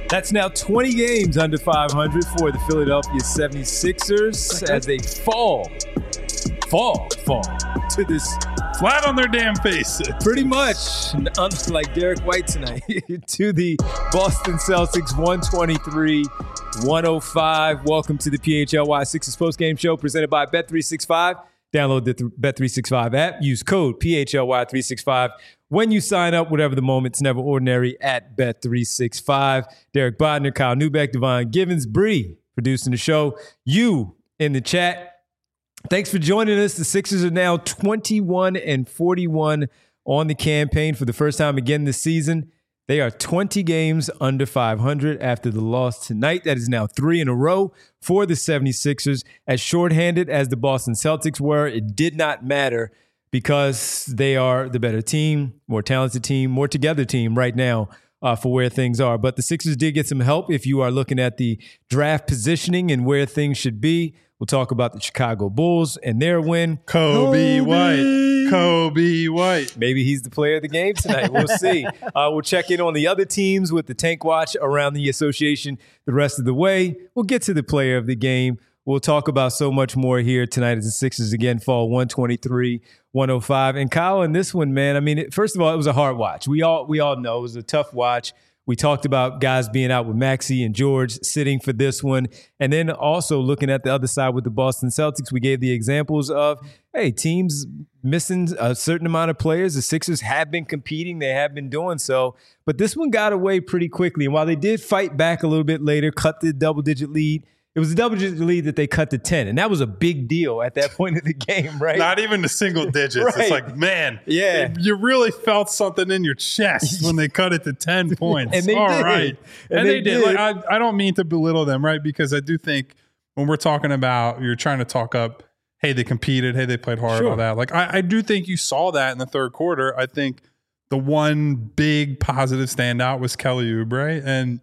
That's now 20 games under 500 for the Philadelphia 76ers as they fall to this flat on their damn face. Pretty much, unlike Derek White tonight, to the Boston Celtics 123-105. Welcome to the PHLY Sixers postgame show presented by Bet365. Download the Bet365 app. Use code PHLY365 when you sign up. Whatever the moment's never ordinary at Bet365. Derek Bodner, Kyle Newbeck, Devon Givens, Bree producing the show. You in the chat. Thanks for joining us. The Sixers are now 21-41 on the campaign for the first time again this season. They are 20 games under 500 after the loss tonight. That is now 3 in a row for the 76ers. As shorthanded as the Boston Celtics were, it did not matter because they are the better team, more talented team, more together team right now for where things are. But the Sixers did get some help if you are looking at the draft positioning and where things should be. We'll talk about the Chicago Bulls and their win. Kobe White. Maybe he's the player of the game tonight. We'll see. We'll check in on the other teams with the Tank Watch around the association the rest of the way. We'll get to the player of the game. We'll talk about so much more here tonight as the Sixers again fall 123-105. And Kyle, in this one, man, I mean, first of all, it was a hard watch. We all know it was a tough watch. We talked about guys being out with Maxey and George sitting for this one. And then also looking at the other side with the Boston Celtics, we gave the examples of, hey, teams missing a certain amount of players. The Sixers have been competing. They have been doing so. But this one got away pretty quickly. And while they did fight back a little bit later, cut the double-digit lead, it was a double-digit lead that they cut to 10. And that was a big deal at that point of the game, right? Not even the single digits. Right. It's like, man, yeah, you really felt something in your chest when they cut it to 10 points. And they did. Right. And they did. Like, I don't mean to belittle them, right? Because I do think when we're talking about, you're trying to talk up, hey, they competed, hey, they played hard, all that. Like, I do think you saw that in the third quarter. I think the one big positive standout was Kelly Oubre. And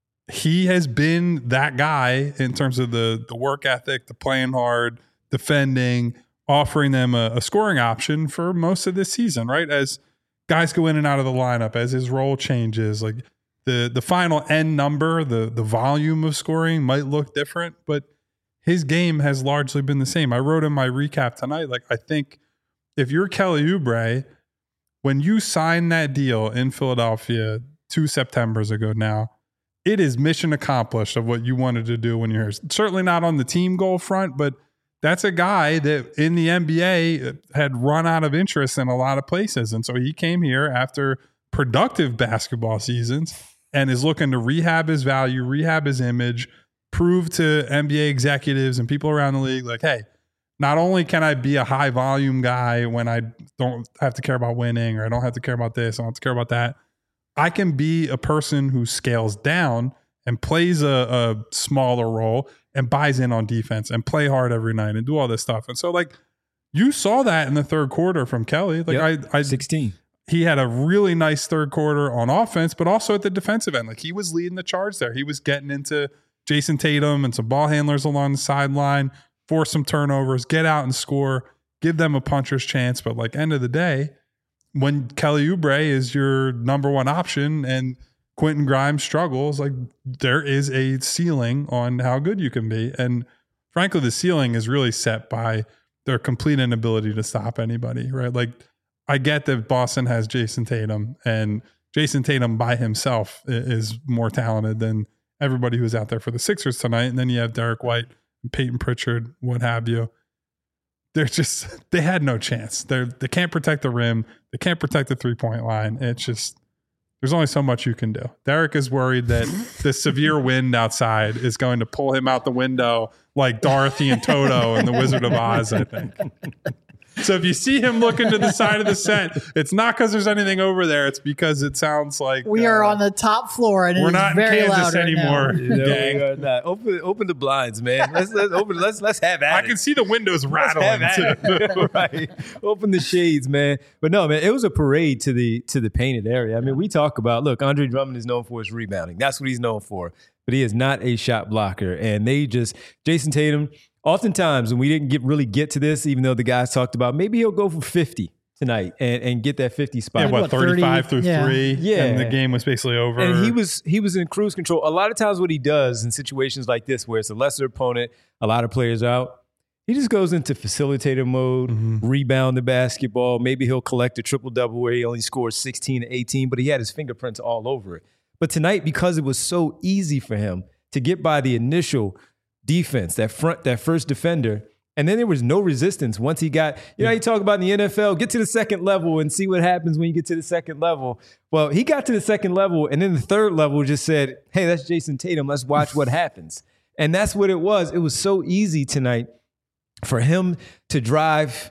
he has been that guy in terms of the work ethic, the playing hard, defending, offering them a scoring option for most of this season, right? As guys go in and out of the lineup, as his role changes, like the final end number, the volume of scoring might look different, but his game has largely been the same. I wrote in my recap tonight, like, I think if you're Kelly Oubre, when you signed that deal in Philadelphia 2 Septembers ago now, it is mission accomplished of what you wanted to do when you're here. Certainly not on the team goal front, but that's a guy that in the NBA had run out of interest in a lot of places. And so he came here after productive basketball seasons and is looking to rehab his value, rehab his image, prove to NBA executives and people around the league, like, hey, not only can I be a high volume guy when I don't have to care about winning, or I don't have to care about this, I don't have to care about that, I can be a person who scales down and plays a smaller role and buys in on defense and play hard every night and do all this stuff. And so, like, you saw that in the third quarter from Kelly. Like, I 16. He had a really nice third quarter on offense, but also at the defensive end. Like, he was leading the charge there. He was getting into Jason Tatum and some ball handlers along the sideline, force some turnovers, get out and score, give them a puncher's chance. But, like, end of the day, when Kelly Oubre is your number one option and Quentin Grimes struggles, like, there is a ceiling on how good you can be. And frankly, the ceiling is really set by their complete inability to stop anybody, right? Like, I get that Boston has Jason Tatum, and Jason Tatum by himself is more talented than everybody who's out there for the Sixers tonight. And then you have Derek White, Peyton Pritchard, what have you. They had no chance. They can't protect the rim. They can't protect the 3-point line. It's just, there's only so much you can do. Derek is worried that the severe wind outside is going to pull him out the window like Dorothy and Toto in The Wizard of Oz, I think. So if you see him looking to the side of the set, it's not because there's anything over there. It's because it sounds like we are on the top floor and we're not in very Kansas anymore. We are not. Open the blinds, man. Let's have at it. I can see the windows rattling too. Right. Open the shades, man. But no, man, it was a parade to the painted area. I mean, we talk about, look, Andre Drummond is known for his rebounding. That's what he's known for. But he is not a shot blocker. And Jason Tatum, oftentimes, when we didn't really get to this, even though the guys talked about maybe he'll go for 50 tonight and get that 50 spot. Yeah, what, 35 through 3? Yeah. And the game was basically over. And he was in cruise control. A lot of times what he does in situations like this where it's a lesser opponent, a lot of players out, he just goes into facilitator mode, rebound the basketball. Maybe he'll collect a triple-double where he only scores 16 to 18, but he had his fingerprints all over it. But tonight, because it was so easy for him to get by the initial defense, that first defender, and then there was no resistance once he got, you talk about in the NFL, get to the second level and see what happens when you get to the second level. Well, he got to the second level, and then the third level just said, hey, that's Jason Tatum. Let's watch what happens. And that's what it was. It was so easy tonight for him to drive,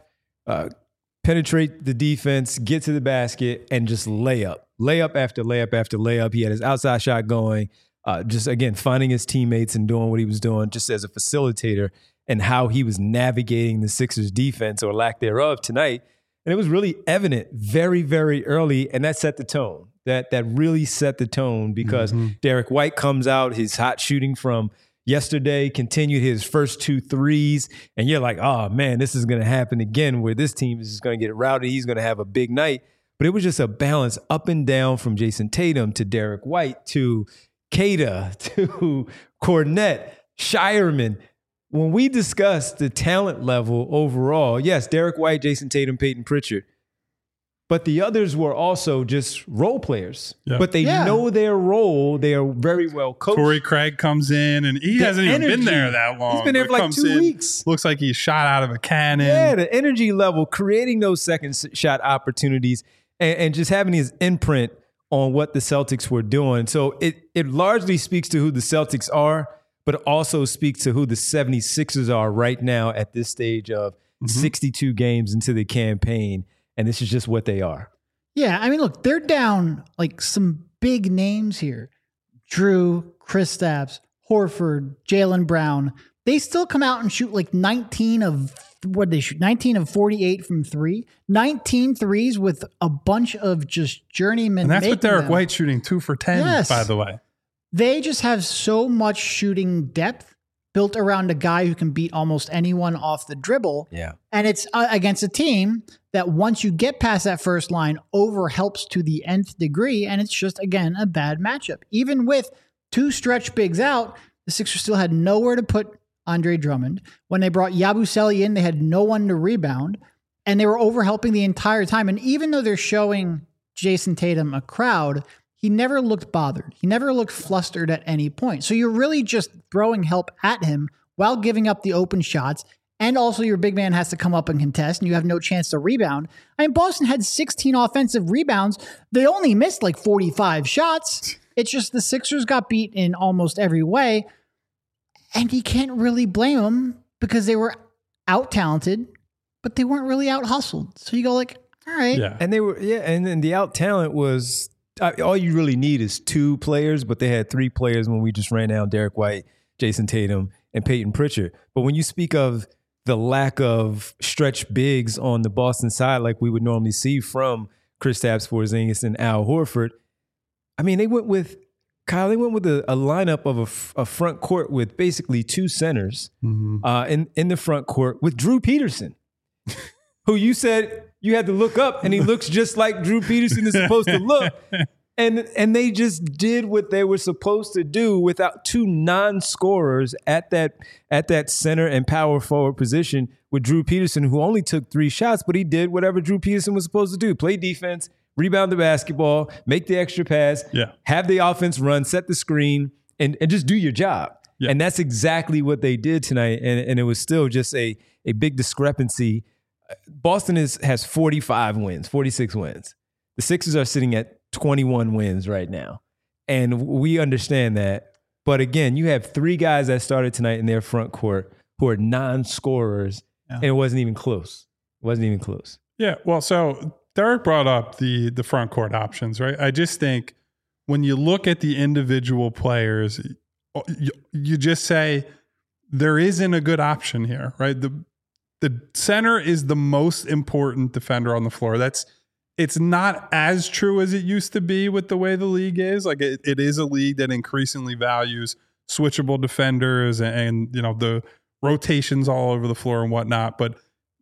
penetrate the defense, get to the basket, and just layup after layup after layup. He had his outside shot going, just, again, finding his teammates and doing what he was doing just as a facilitator and how he was navigating the Sixers defense or lack thereof tonight. And it was really evident very, very early, and that set the tone. That really set the tone because Derek White comes out, his hot shooting from yesterday, continued his first 2 threes, and you're like, oh man, this is going to happen again where this team is just going to get rowdy. He's going to have a big night. But it was just a balance up and down from Jason Tatum to Derek White to Queta to Kornet, Shireman. When we discussed the talent level overall, yes, Derek White, Jason Tatum, Peyton Pritchard. But the others were also just role players. Yeah. But they know their role. They are very well coached. Torrey Craig comes in, and he hasn't even been there that long. He's been there for like 2 weeks. Looks like he's shot out of a cannon. Yeah, the energy level, creating those second shot opportunities, and just having his imprint on what the Celtics were doing. So it largely speaks to who the Celtics are, but also speaks to who the 76ers are right now at this stage of 62 games into the campaign. And this is just what they are. Yeah, I mean, look, they're down like some big names here. Drew, Kristaps, Horford, Jaylen Brown. They still come out and shoot like 19 of 48 from 3. 19 threes with a bunch of just journeymen. And that's with Derek White shooting 2 for 10, by the way. They just have so much shooting depth built around a guy who can beat almost anyone off the dribble. Yeah. And it's against a team that once you get past that first line, over helps to the nth degree. And it's just, again, a bad matchup. Even with 2 stretch bigs out, the Sixers still had nowhere to put Andre Drummond. When they brought Yabusele in, they had no one to rebound. And they were over helping the entire time. And even though they're showing Jason Tatum a crowd, he never looked bothered. He never looked flustered at any point. So you're really just throwing help at him while giving up the open shots. And also your big man has to come up and contest, and you have no chance to rebound. I mean, Boston had 16 offensive rebounds. They only missed like 45 shots. It's just the Sixers got beat in almost every way. And you can't really blame them because they were out-talented, but they weren't really out-hustled. So you go like, all right. Yeah. And they were, and then the out-talent was... all you really need is 2 players, but they had 3 players when we just ran down Derek White, Jason Tatum, and Peyton Pritchard. But when you speak of the lack of stretch bigs on the Boston side, like we would normally see from Kristaps Porzingis and Al Horford, I mean, they went with a lineup of a front court with basically 2 centers in the front court with Drew Peterson, who you said you had to look up, and he looks just like Drew Peterson is supposed to look. And they just did what they were supposed to do without 2 non-scorers at that center and power forward position with Drew Peterson, who only took 3 shots, but he did whatever Drew Peterson was supposed to do: play defense, rebound the basketball, make the extra pass, have the offense run, set the screen, and just do your job. Yeah. And that's exactly what they did tonight. And it was still just a big discrepancy. Boston has 46 wins. The Sixers are sitting at 21 wins right now. And we understand that. But again, you have 3 guys that started tonight in their front court who are non-scorers, and it wasn't even close. Yeah, well, so Derek brought up the front court options, right? I just think when you look at the individual players, you just say there isn't a good option here, right? The center is the most important defender on the floor. It's not as true as it used to be with the way the league is. Like it is a league that increasingly values switchable defenders and the rotations all over the floor and whatnot. But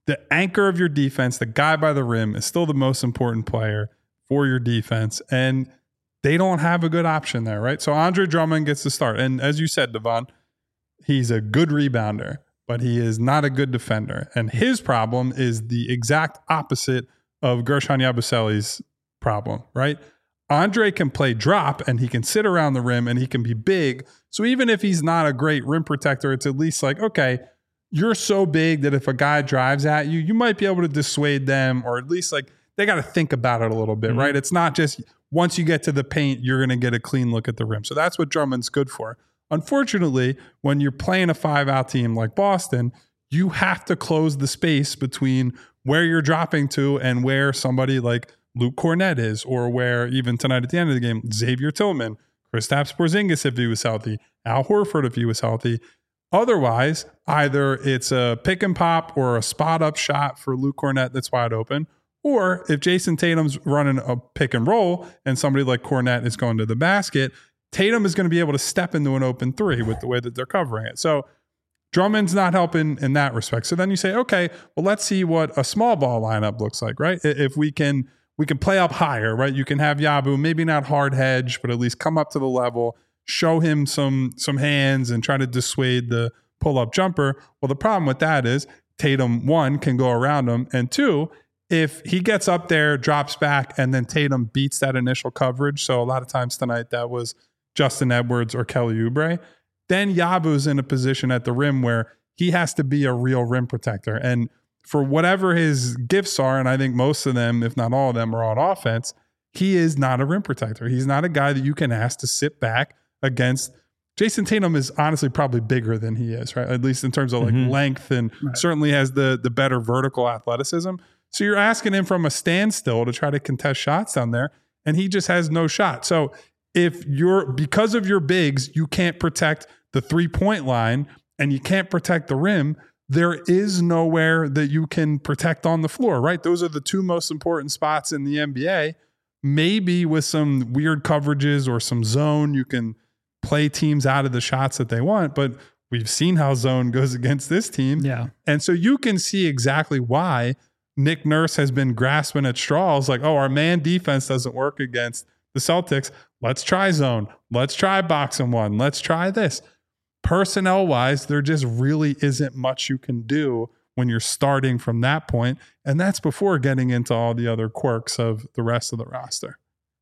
the anchor of your defense, the guy by the rim, is still the most important player for your defense. And they don't have a good option there, right? So Andre Drummond gets the start. And as you said, Devon, he's a good rebounder, but he is not a good defender. And his problem is the exact opposite of Gershon Yabusele's problem, right? Andre can play drop and he can sit around the rim and he can be big. So even if he's not a great rim protector, it's at least like, okay, you're so big that if a guy drives at you, you might be able to dissuade them, or at least like they got to think about it a little bit, right? It's not just once you get to the paint, you're going to get a clean look at the rim. So that's what Drummond's good for. Unfortunately, when you're playing a 5-out team like Boston, you have to close the space between where you're dropping to and where somebody like Luke Kornet is, or where even tonight at the end of the game, Xavier Tillman, Kristaps Porzingis if he was healthy, Al Horford if he was healthy. Otherwise, either it's a pick and pop or a spot up shot for Luke Kornet that's wide open, or if Jason Tatum's running a pick and roll and somebody like Kornet is going to the basket, Tatum is going to be able to step into an open three with the way that they're covering it. So Drummond's not helping in that respect. So then you say, okay, well, let's see what a small ball lineup looks like, right? If we can play up higher, right? You can have Yabu, maybe not hard hedge, but at least come up to the level, show him some hands and try to dissuade the pull-up jumper. Well, the problem with that is Tatum, one, can go around him, and two, if he gets up there, drops back, and then Tatum beats that initial coverage, so a lot of times tonight that was Justin Edwards or Kelly Oubre, then Yabu's in a position at the rim where he has to be a real rim protector. And for whatever his gifts are, and I think most of them, if not all of them, are on offense, he is not a rim protector. He's not a guy that you can ask to sit back against. Jason Tatum is honestly probably bigger than he is, right? At least in terms of like length, and certainly has the better vertical athleticism. So you're asking him from a standstill to try to contest shots down there, and he just has no shot. So if because of your bigs, you can't protect the 3-point line and you can't protect the rim, there is nowhere that you can protect on the floor, right? Those are the two most important spots in the NBA. Maybe with some weird coverages or some zone, you can play teams out of the shots that they want, but we've seen how zone goes against this team. Yeah. And so you can see exactly why Nick Nurse has been grasping at straws like, oh, our man defense doesn't work against the Celtics. Let's try zone. Let's try box and one. Let's try this. Personnel-wise, there just really isn't much you can do when you're starting from that point. And that's before getting into all the other quirks of the rest of the roster.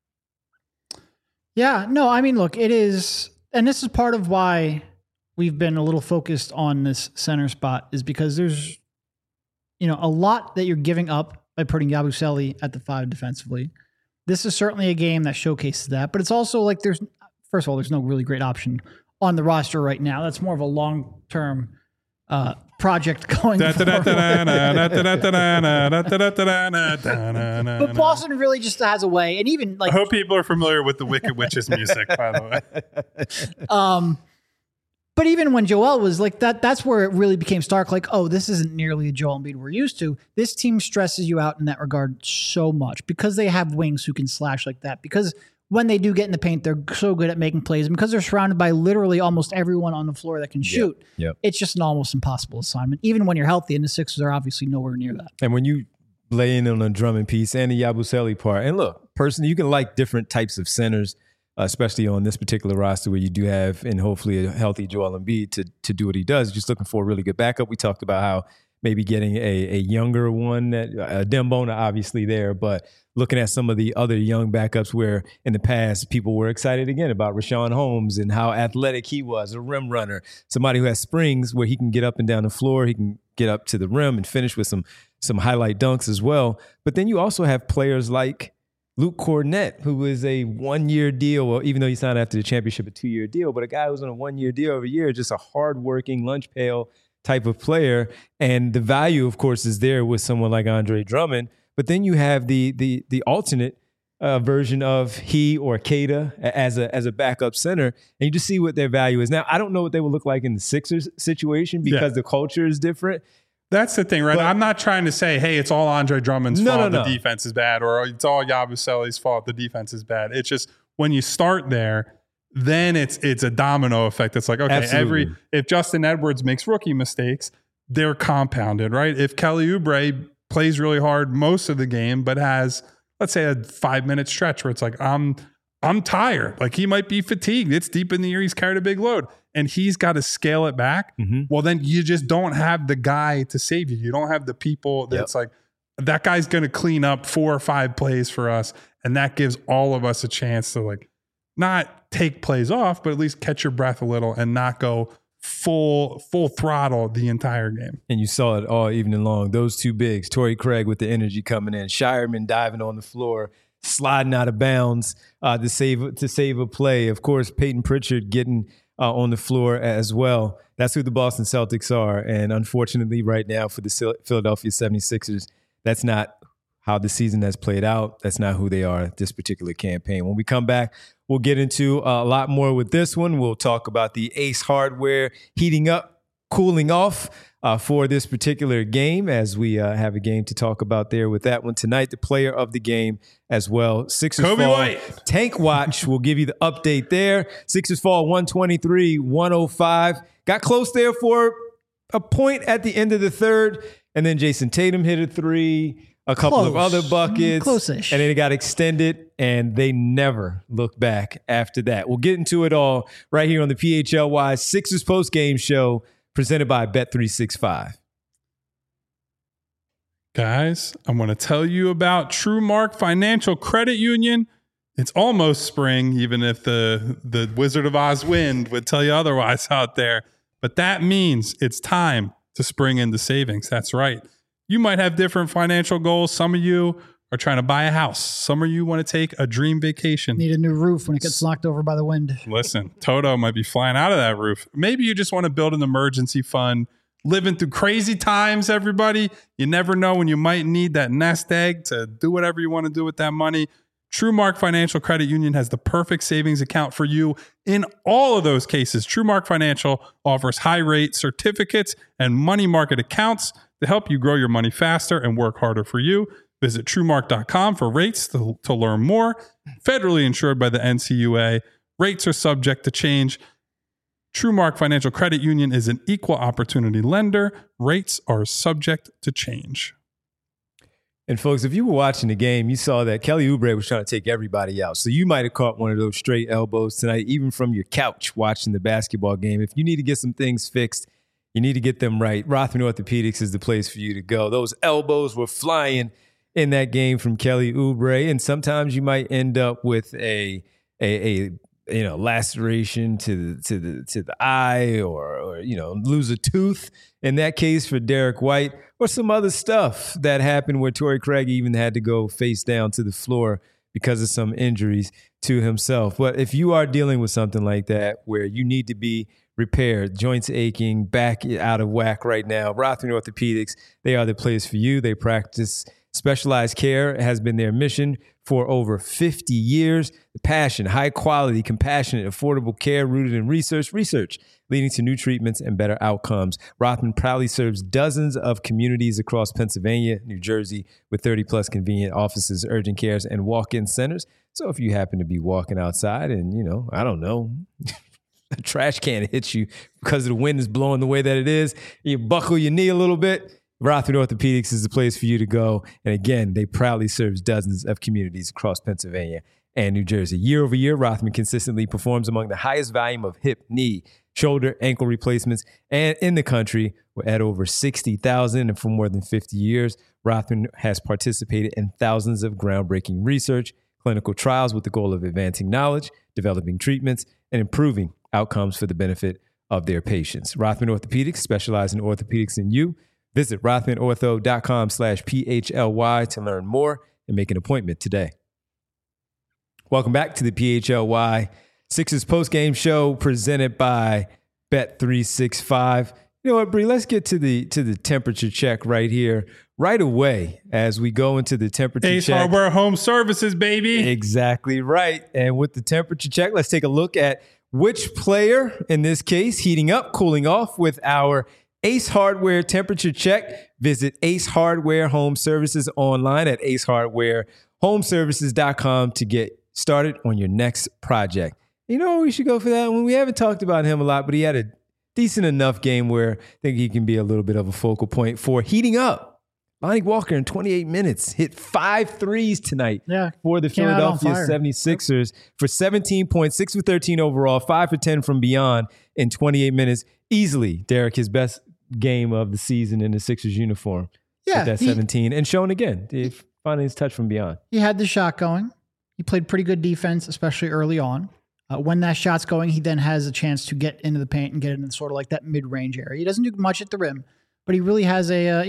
Yeah, no, I mean, look, it is, and this is part of why we've been a little focused on this center spot, is because there's, a lot that you're giving up by putting Yabusele at the 5 defensively. This is certainly a game that showcases that, but it's also like first of all, there's no really great option on the roster right now. That's more of a long-term project going forward. But Boston really just has a way, and even like, I hope people are familiar with the Wicked Witches music, by the way. But even when Joel was like that's where it really became stark. Like, oh, this isn't nearly the Joel Embiid we're used to. This team stresses you out in that regard so much because they have wings who can slash like that. Because when they do get in the paint, they're so good at making plays. And because they're surrounded by literally almost everyone on the floor that can shoot, it's just an almost impossible assignment, even when you're healthy. And the Sixers are obviously nowhere near that. And when you lay in on a Drummond piece and the Yabusele part, and look, personally, you can like different types of centers, especially on this particular roster where you do have, and hopefully a healthy Joel Embiid to do what he does. Just looking for a really good backup. We talked about how maybe getting a younger one, Dembona obviously there, but looking at some of the other young backups where in the past people were excited again about Richaun Holmes and how athletic he was, a rim runner, somebody who has springs where he can get up and down the floor, he can get up to the rim and finish with some highlight dunks as well. But then you also have players like Luke Kornet, who was a 1-year deal, well, even though he signed after the championship, a 2-year deal, but a guy who's on a 1-year deal over a year, just a hardworking lunch pail type of player. And the value, of course, is there with someone like Andre Drummond. But then you have the alternate version of he or Keita as a backup center, and you just see what their value is. Now, I don't know what they will look like in the Sixers situation because the culture is different. That's the thing, right? But I'm not trying to say, hey, it's all Andre Drummond's fault the defense is bad, or it's all Yabusele's fault the defense is bad. It's just when you start there, then it's a domino effect. It's like, okay, if Justin Edwards makes rookie mistakes, they're compounded, right? If Kelly Oubre plays really hard most of the game, but has, let's say, a 5-minute stretch where it's like, I'm tired. Like he might be fatigued. It's deep in the year. He's carried a big load and he's got to scale it back. Well, then you just don't have the guy to save you. You don't have the people that's like, that guy's going to clean up 4 or 5 plays for us. And that gives all of us a chance to like not take plays off, but at least catch your breath a little and not go full throttle the entire game. And you saw it all evening long. Those two bigs, Torrey Craig with the energy coming in, Shireman diving on the floor, sliding out of bounds to save a play. Of course, Peyton Pritchard getting on the floor as well. That's who the Boston Celtics are. And unfortunately, right now for the Philadelphia 76ers, that's not how the season has played out. That's not who they are this particular campaign. When we come back, we'll get into a lot more with this one. We'll talk about the Ace Hardware heating up, cooling off for this particular game, as we have a game to talk about there with that one tonight. The player of the game as well. Sixers Kobe fall. White. Tank Watch will give you the update there. Sixers fall 123-105. Got close there for a point at the end of the third. And then Jason Tatum hit a three, a couple of other buckets. Close-ish. And then it got extended, and they never looked back after that. We'll get into it all right here on the PHLY Sixers post-game show presented by Bet365. Guys, I'm going to tell you about TrueMark Financial Credit Union. It's almost spring, even if the Wizard of Oz wind would tell you otherwise out there. But that means it's time to spring into savings. That's right. You might have different financial goals. Some of you are trying to buy a house. Some of you want to take a dream vacation. Need a new roof when it gets knocked over by the wind. Listen, Toto might be flying out of that roof. Maybe you just want to build an emergency fund. Living through crazy times, everybody. You never know when you might need that nest egg to do whatever you want to do with that money. TrueMark Financial Credit Union has the perfect savings account for you in all of those cases. TrueMark Financial offers high-rate certificates and money market accounts to help you grow your money faster and work harder for you. Visit TrueMark.com for rates to learn more. Federally insured by the NCUA. Rates are subject to change. TrueMark Financial Credit Union is an equal opportunity lender. Rates are subject to change. And folks, if you were watching the game, you saw that Kelly Oubre was trying to take everybody out. So you might have caught one of those straight elbows tonight, even from your couch watching the basketball game. If you need to get some things fixed, you need to get them right. Rothman Orthopedics is the place for you to go. Those elbows were flying in that game from Kelly Oubre, and sometimes you might end up with a laceration to the eye, or lose a tooth. In that case, for Derek White, or some other stuff that happened where Torrey Craig even had to go face down to the floor because of some injuries to himself. But if you are dealing with something like that where you need to be repaired, joints aching, back out of whack right now, Rothman Orthopedics, they are the place for you. They practice specialized care. It has been their mission for over 50 years. The passion, high quality, compassionate, affordable care rooted in research leading to new treatments and better outcomes. Rothman proudly serves dozens of communities across Pennsylvania, New Jersey, with 30 plus convenient offices, urgent cares, and walk-in centers. So if you happen to be walking outside and, I don't know, a trash can hits you because the wind is blowing the way that it is, you buckle your knee a little bit, Rothman Orthopedics is the place for you to go. And again, they proudly serves dozens of communities across Pennsylvania and New Jersey. Year over year, Rothman consistently performs among the highest volume of hip, knee, shoulder, ankle replacements and in the country. We're at over 60,000, and for more than 50 years, Rothman has participated in thousands of groundbreaking research, clinical trials with the goal of advancing knowledge, developing treatments, and improving outcomes for the benefit of their patients. Rothman Orthopedics specializes in orthopedics in you. Visit rothmanortho.com/PHLY to learn more and make an appointment today. Welcome back to the PHLY Sixers postgame show presented by Bet365. You know what, Bree? Let's get to the temperature check right here, right away, as we go into the temperature Ace check. Hardware Home Services, baby. Exactly right. And with the temperature check, let's take a look at which player, in this case, heating up, cooling off with our Ace Hardware temperature check. Visit Ace Hardware Home Services online at acehardwarehomeservices.com to get started on your next project. You know, we should go for that one. We haven't talked about him a lot, but he had decent enough game where I think he can be a little bit of a focal point for heating up. Lonnie Walker in 28 minutes hit 5 threes tonight for the Philadelphia 76ers for 17 points, 6 for 13 overall, 5 for 10 from beyond in 28 minutes. Easily, Derek, his best game of the season in the Sixers uniform. Yeah. With that 17 and shown again, finding his touch from beyond. He had the shot going. He played pretty good defense, especially early on. When that shot's going, he then has a chance to get into the paint and get into sort of like that mid-range area. He doesn't do much at the rim, but he really has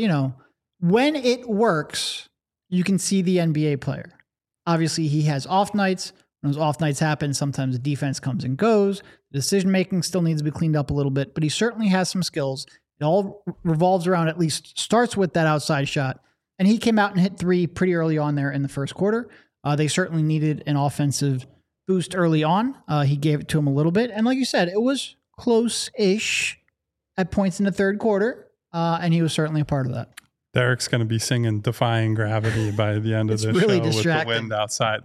when it works, you can see the NBA player. Obviously, he has off nights. When those off nights happen, sometimes the defense comes and goes. The decision-making still needs to be cleaned up a little bit, but he certainly has some skills. It all revolves around, at least starts with that outside shot. And he came out and hit 3 pretty early on there in the first quarter. They certainly needed an offensive boost early on. He gave it to him a little bit. And like you said, it was close-ish at points in the third quarter, and he was certainly a part of that. Derek's going to be singing Defying Gravity by the end of the really show distracting. with the wind outside.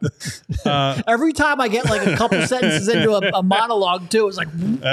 Every time I get like a couple sentences into a monologue too, it's like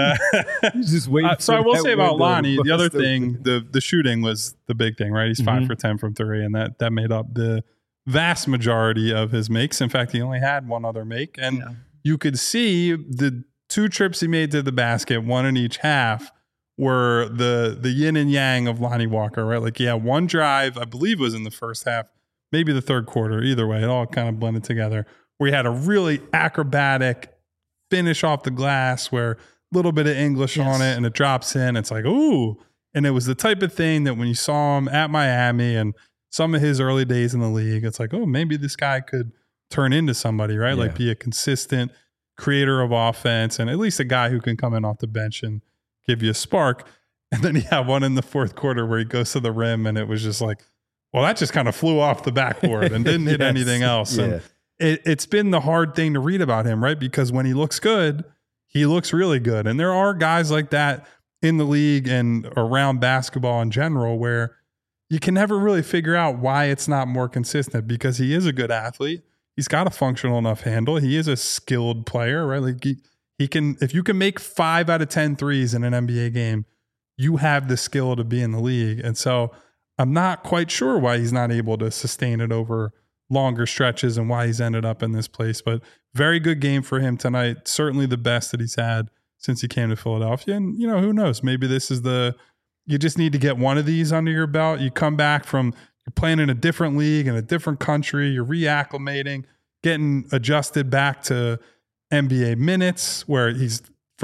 just wait. So I will say about Lonnie, the other thing, the shooting was the big thing, right? He's 5 for 10 from 3, and that made up the vast majority of his makes. In fact, he only had one other make, and you could see the 2 trips he made to the basket, one in each half, were the yin and yang of Lonnie Walker, right? Like, one drive, I believe was in the first half, maybe the third quarter. Either way, it all kind of blended together. Where he had a really acrobatic finish off the glass where a little bit of English on it and it drops in. It's like, ooh. And it was the type of thing that when you saw him at Miami and some of his early days in the league, it's like, oh, maybe this guy could turn into somebody, right? Like be a consistent creator of offense and at least a guy who can come in off the bench and give you a spark. And then he had one in the fourth quarter where he goes to the rim and it was just like, well, that just kind of flew off the backboard and didn't hit anything else. And it's been the hard thing to read about him, right? Because when he looks good, he looks really good. And there are guys like that in the league and around basketball in general where you can never really figure out why it's not more consistent, because he is a good athlete. He's got a functional enough handle. He is a skilled player, right? Like he can, if you can make 5 out of 10 threes in an NBA game, you have the skill to be in the league. And so I'm not quite sure why he's not able to sustain it over longer stretches and why he's ended up in this place. But very good game for him tonight. Certainly the best that he's had since he came to Philadelphia. And, who knows? Maybe this is you just need to get one of these under your belt. You come back from, you're playing in a different league, in a different country, you're reacclimating, getting adjusted back to NBA minutes where he's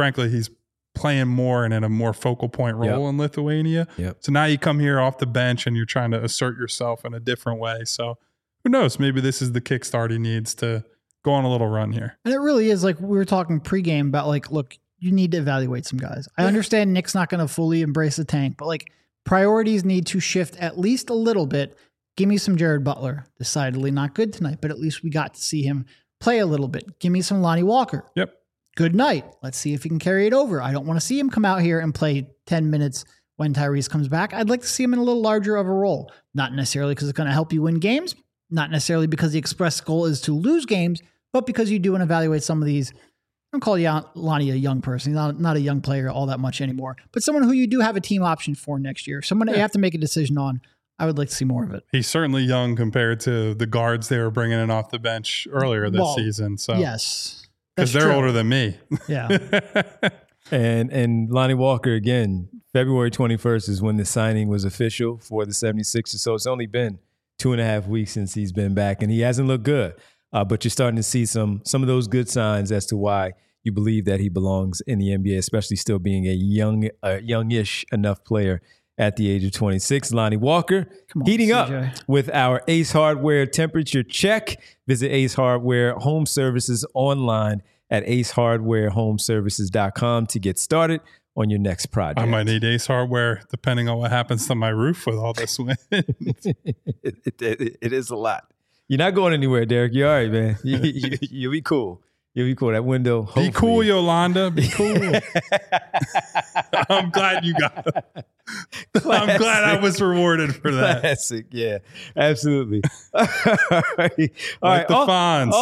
playing more and in a more focal point role in Lithuania. So now you come here off the bench and you're trying to assert yourself in a different way. So who knows? Maybe this is the kickstart he needs to go on a little run here. And it really is, like we were talking pregame about, like, look, you need to evaluate some guys. I understand Nick's not going to fully embrace the tank, but like priorities need to shift at least a little bit. Give me some Jared Butler. Decidedly not good tonight, but at least we got to see him play a little bit. Give me some Lonnie Walker. Good night. Let's see if he can carry it over. I don't want to see him come out here and play 10 minutes when Tyrese comes back. I'd like to see him in a little larger of a role. Not necessarily because it's going to help you win games. Not necessarily because the express goal is to lose games, but because you do want to evaluate some of these. I don't call Lonnie a young person. He's not a young player all that much anymore, but someone who you do have a team option for next year. Someone that you have to make a decision on. I would like to see more of it. He's certainly young compared to the guards they were bringing in off the bench earlier this season. So yes, because they're older than me. Yeah. And Lonnie Walker, again, February 21st is when the signing was official for the 76ers. So it's only been 2.5 weeks since he's been back, and he hasn't looked good. But you're starting to see some of those good signs as to why you believe that he belongs in the NBA, especially still being a youngish enough player at the age of 26. Lonnie Walker heating CJ up with our Ace Hardware temperature check. Visit Ace Hardware Home Services online at acehardwarehomeservices.com to get started on your next project. I might need Ace Hardware depending on what happens to my roof with all this wind. It is a lot. You're not going anywhere, Derek. You're all right, man. You'll be cool. You'll be cool. That window. Hopefully. Be cool, Yolanda. Be cool. I'm glad you got it. I'm glad I was rewarded for that. Classic. Yeah, absolutely. All right. Like the Fonz.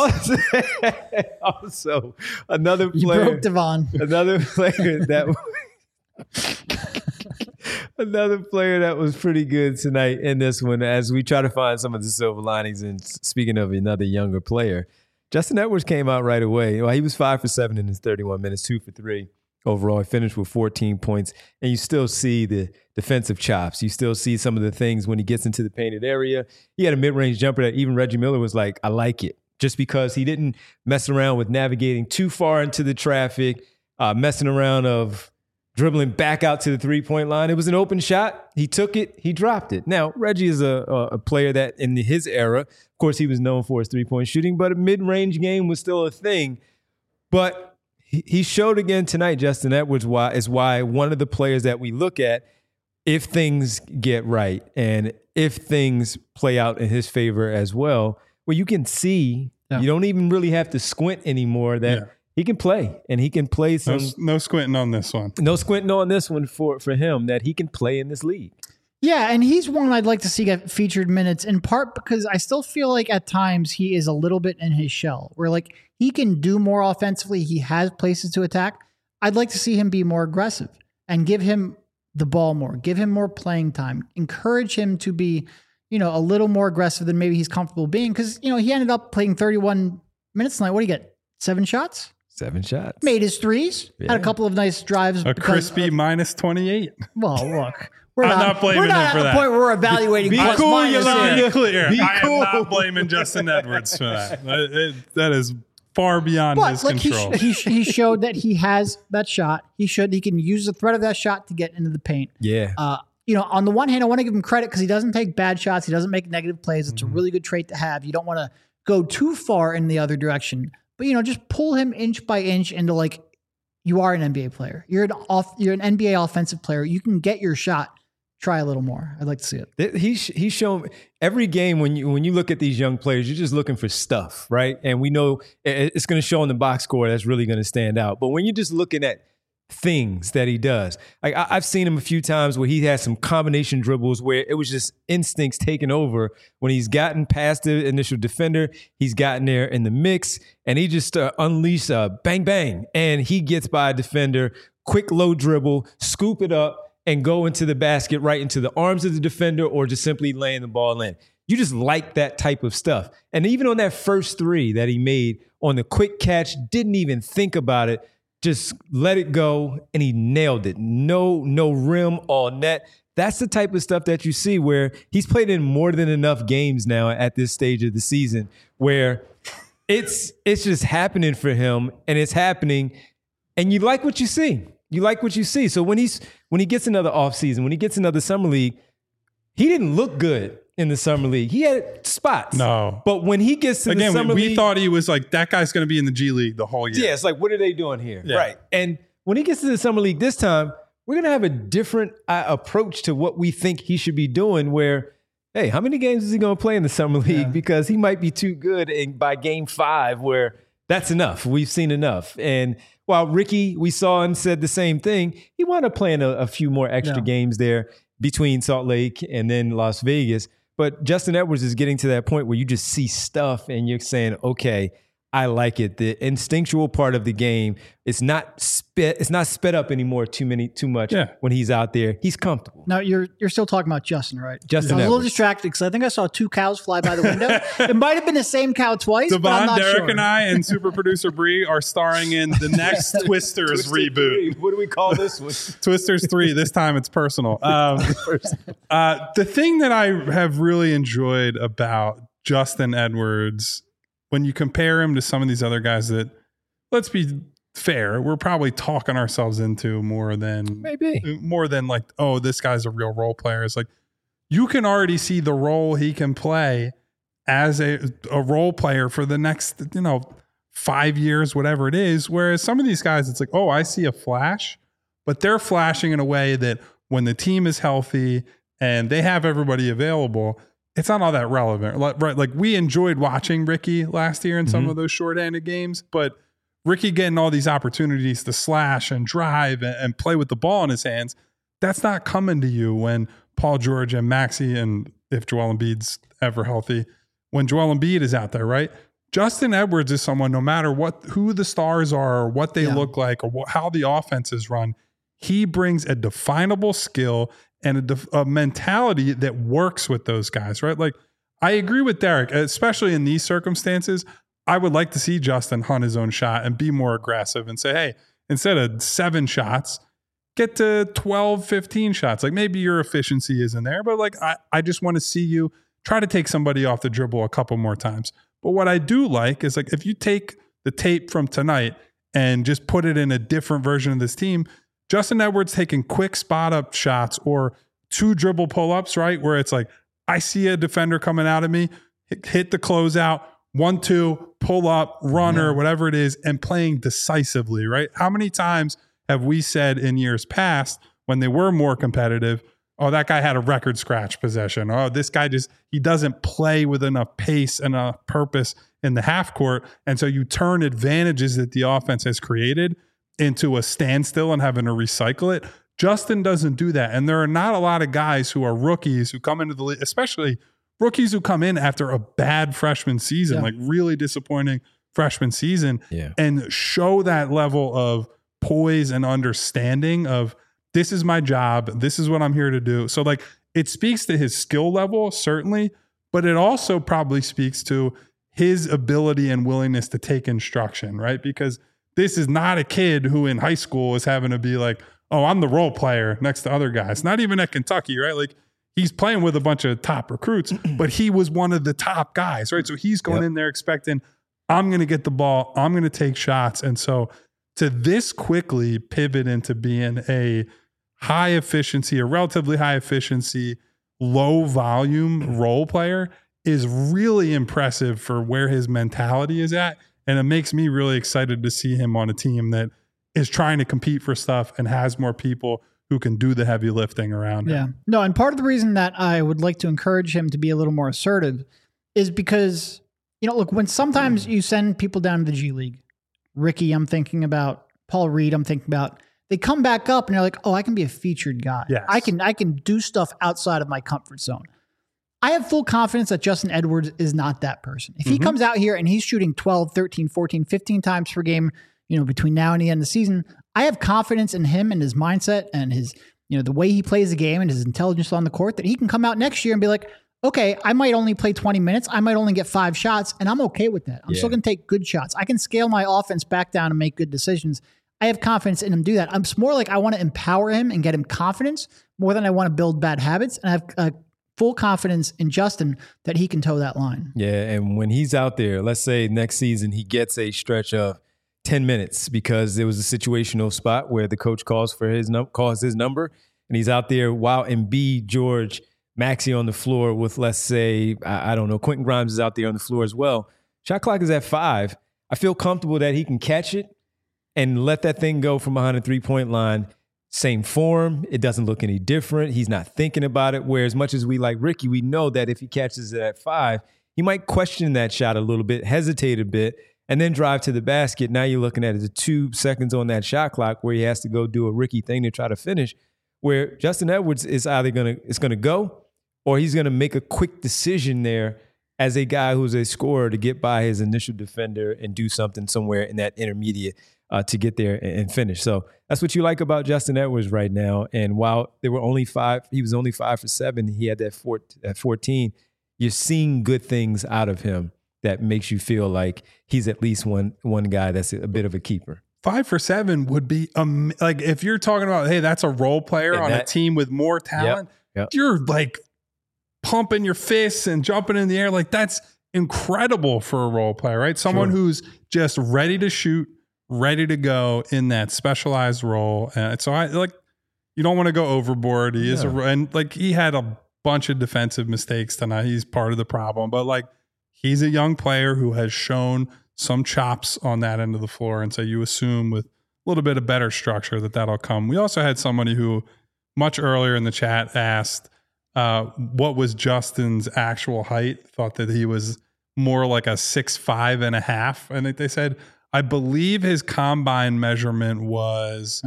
Also, another player. You broke Devon. Another player that Another player that was pretty good tonight in this one, as we try to find some of the silver linings. And speaking of another younger player, Justin Edwards came out right away. Well, he was 5 for 7 in his 31 minutes, 2 for 3 overall. He finished with 14 points. And you still see the defensive chops. You still see some of the things when he gets into the painted area. He had a mid-range jumper that even Reggie Miller was like, I like it. Just because he didn't mess around with navigating too far into the traffic, messing around of dribbling back out to the three-point line. It was an open shot. He took it. He dropped it. Now, Reggie is a player that in his era, of course, he was known for his three-point shooting, but a mid-range game was still a thing. But he showed again tonight, Justin Edwards, is why one of the players that we look at, if things get right and if things play out in his favor as well, well, you can see, you don't even really have to squint anymore that he can play, and he can play some. No squinting on this one. No squinting on this one for him, that he can play in this league. Yeah, and he's one I'd like to see get featured minutes, in part because I still feel like at times he is a little bit in his shell, where like he can do more offensively. He has places to attack. I'd like to see him be more aggressive and give him the ball more, give him more playing time, encourage him to be, a little more aggressive than maybe he's comfortable being. Because, he ended up playing 31 minutes tonight. What do you get? 7 shots? 7 shots. Made his threes. Yeah. Had a couple of nice drives. A crispy minus 28. Well, look. I'm not blaming him for that. We're not at the point where we're evaluating. Be cool, Yolanda. Be clear. Be cool. I am not blaming Justin Edwards for that. That is far beyond his control. He showed that he has that shot. He can use the threat of that shot to get into the paint. Yeah. On the one hand, I want to give him credit because he doesn't take bad shots. He doesn't make negative plays. It's a really good trait to have. You don't want to go too far in the other direction. But, just pull him inch by inch into like, you are an NBA player. You're an NBA offensive player. You can get your shot. Try a little more. I'd like to see it. He's shown every game when you look at these young players, you're just looking for stuff, right? And we know it's going to show in the box score that's really going to stand out. But when you're just looking at things that he does, like I've seen him a few times where he has some combination dribbles where it was just instincts taking over. When he's gotten past the initial defender, he's gotten there in the mix, and he just unleashed a bang bang, and he gets by a defender, quick low dribble, scoop it up, and go into the basket, right into the arms of the defender, or just simply laying the ball in. You just like that type of stuff. And even on that first 3 that he made on the quick catch, didn't even think about it, just let it go, and he nailed it. No rim, all net. That's the type of stuff that you see where he's played in more than enough games now at this stage of the season where it's just happening for him, and it's happening, and you like what you see. You like what you see. So when he gets another offseason, when he gets another summer league, he didn't look good in the summer league. He had spots. No. But when he gets to the summer league. We thought he was like, that guy's going to be in the G League the whole year. Yeah, it's like, what are they doing here? Yeah. Right. And when he gets to the summer league this time, we're going to have a different approach to what we think he should be doing where, hey, how many games is he going to play in the summer league? Yeah. Because he might be too good by game 5 where that's enough. We've seen enough. And while Ricky, we saw and said the same thing, he wound up playing a few more extra games there between Salt Lake and then Las Vegas. But Justin Edwards is getting to that point where you just see stuff and you're saying, okay, I like it. The instinctual part of the game, it's not sped up anymore too much when he's out there. He's comfortable. Now you're still talking about Justin, right? Justin I was Edwards. a little distracted because I think I saw 2 cows fly by the window. It might have been the same cow twice, but I'm not Derek sure. and I and super producer Bree are starring in the next Twisters reboot. 3. What do we call this one? Twisters 3. This time it's personal. The thing that I have really enjoyed about Justin Edwards, when you compare him to some of these other guys that, let's be fair, we're probably talking ourselves into more than like, oh, this guy's a real role player. It's like you can already see the role he can play as a role player for the next, 5 years, whatever it is. Whereas some of these guys, it's like, oh, I see a flash, but they're flashing in a way that when the team is healthy and they have everybody available, it's not all that relevant, right? Like we enjoyed watching Ricky last year in some of those shorthanded games, but Ricky getting all these opportunities to slash and drive and play with the ball in his hands, that's not coming to you when Paul George and Maxey, and if Joel Embiid's ever healthy, when Joel Embiid is out there, right? Justin Edwards is someone, no matter who the stars are or what they look like or how the offense is run, he brings a definable skill and a mentality that works with those guys, right? Like, I agree with Derek, especially in these circumstances. I would like to see Justin hunt his own shot and be more aggressive and say, hey, instead of 7 shots, get to 12, 15 shots. Like, maybe your efficiency isn't there, but like, I just want to see you try to take somebody off the dribble a couple more times. But what I do like is, like, if you take the tape from tonight and just put it in a different version of this team, Justin Edwards taking quick spot up shots or 2 dribble pull-ups, right? Where it's like, I see a defender coming out of me, hit the closeout, 1-2, pull up, runner, whatever it is, and playing decisively, right? How many times have we said in years past when they were more competitive, oh, that guy had a record scratch possession. Oh, this guy he doesn't play with enough pace and enough purpose in the half court. And so you turn advantages that the offense has created into a standstill and having to recycle it. Justin doesn't do that. And there are not a lot of guys who are rookies who come into the league, especially rookies who come in after a bad freshman season, like really disappointing freshman season, and show that level of poise and understanding of, this is my job, this is what I'm here to do. So like, it speaks to his skill level, certainly, but it also probably speaks to his ability and willingness to take instruction, right? Because this is not a kid who in high school is having to be like, oh, I'm the role player next to other guys. Not even at Kentucky, right? Like, he's playing with a bunch of top recruits, but he was one of the top guys, right? So he's going in there expecting, I'm going to get the ball, I'm going to take shots. And so to this quickly pivot into being a high efficiency, a relatively high efficiency, low volume role player is really impressive for where his mentality is at. And it makes me really excited to see him on a team that is trying to compete for stuff and has more people who can do the heavy lifting around him. Yeah. No, and part of the reason that I would like to encourage him to be a little more assertive is because, you know, look, when sometimes you send people down to the G League, Ricky, I'm thinking about, Paul Reed, I'm thinking about, they come back up and they're like, oh, I can be a featured guy. Yes. I can do stuff outside of my comfort zone. I have full confidence that Justin Edwards is not that person. If he comes out here and he's shooting 12, 13, 14, 15 times per game, you know, between now and the end of the season, I have confidence in him and his mindset and his, you know, the way he plays the game and his intelligence on the court that he can come out next year and be like, okay, I might only play 20 minutes. I might only get 5 shots, and I'm okay with that. I'm still going to take good shots. I can scale my offense back down and make good decisions. I have confidence in him to do that. I'm more like I want to empower him and get him confidence more than I want to build bad habits. And I have full confidence in Justin that he can toe that line. Yeah, and when he's out there, let's say next season he gets a stretch of 10 minutes because there was a situational spot where the coach calls his number, and he's out there while Embiid, George, Maxey on the floor with, let's say, I don't know, Quentin Grimes is out there on the floor as well. Shot clock is at 5. I feel comfortable that he can catch it and let that thing go from behind the 3-point line. Same form. It doesn't look any different. He's not thinking about it. Where as much as we like Ricky, we know that if he catches it at 5, he might question that shot a little bit, hesitate a bit, and then drive to the basket. Now you're looking at it 2 seconds on that shot clock where he has to go do a Ricky thing to try to finish, where Justin Edwards is either going to go or he's going to make a quick decision there as a guy who's a scorer to get by his initial defender and do something somewhere in that intermediate to get there and finish. So that's what you like about Justin Edwards right now. And while there were only 5, he was only 5 for 7. He had that 14. You're seeing good things out of him that makes you feel like he's at least one guy that's a bit of a keeper. 5 for 7 would be like, if you're talking about, hey, that's a role player on a team with more talent, you're like pumping your fists and jumping in the air. Like, that's incredible for a role player, right? Someone who's just ready to shoot, ready to go in that specialized role. And so you don't want to go overboard. He is and like, he had a bunch of defensive mistakes tonight. He's part of the problem, but like, he's a young player who has shown some chops on that end of the floor. And so you assume with a little bit of better structure that'll come. We also had somebody who much earlier in the chat asked, what was Justin's actual height? Thought that he was more like a 6'5.5". And they said, I believe his combine measurement was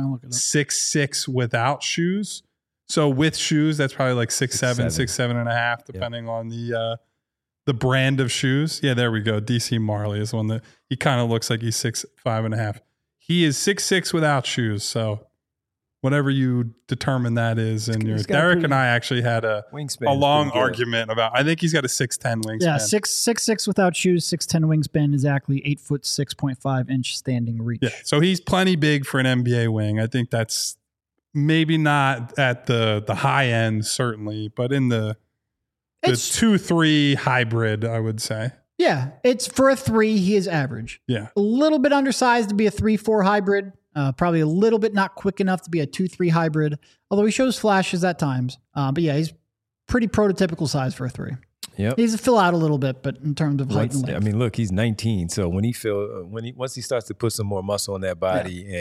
6'6" without shoes. So with shoes, that's probably like 6'7", 6'7.5", depending on the brand of shoes. Yeah, there we go. DC Marley is one that he kind of looks like he's 6'5.5". He is 6'6" without shoes. So whatever you determine that is. And Derek and I actually had a long argument about, I think he's got a 6'10" wingspan. Yeah, 6'6" without shoes, 6'10" wingspan, exactly 8 foot 6.5 inch standing reach. Yeah, so he's plenty big for an NBA wing. I think that's maybe not at the high end, certainly, but in the 2-3 hybrid, I would say. Yeah, it's for a 3, he is average. Yeah. A little bit undersized to be a 3-4 hybrid. Probably a little bit not quick enough to be a 2-3 hybrid, although he shows flashes at times. But yeah, he's pretty prototypical size for a 3. Yeah, he's a fill out a little bit, but in terms of height and length. I mean, look, he's 19, so once he starts to put some more muscle on that body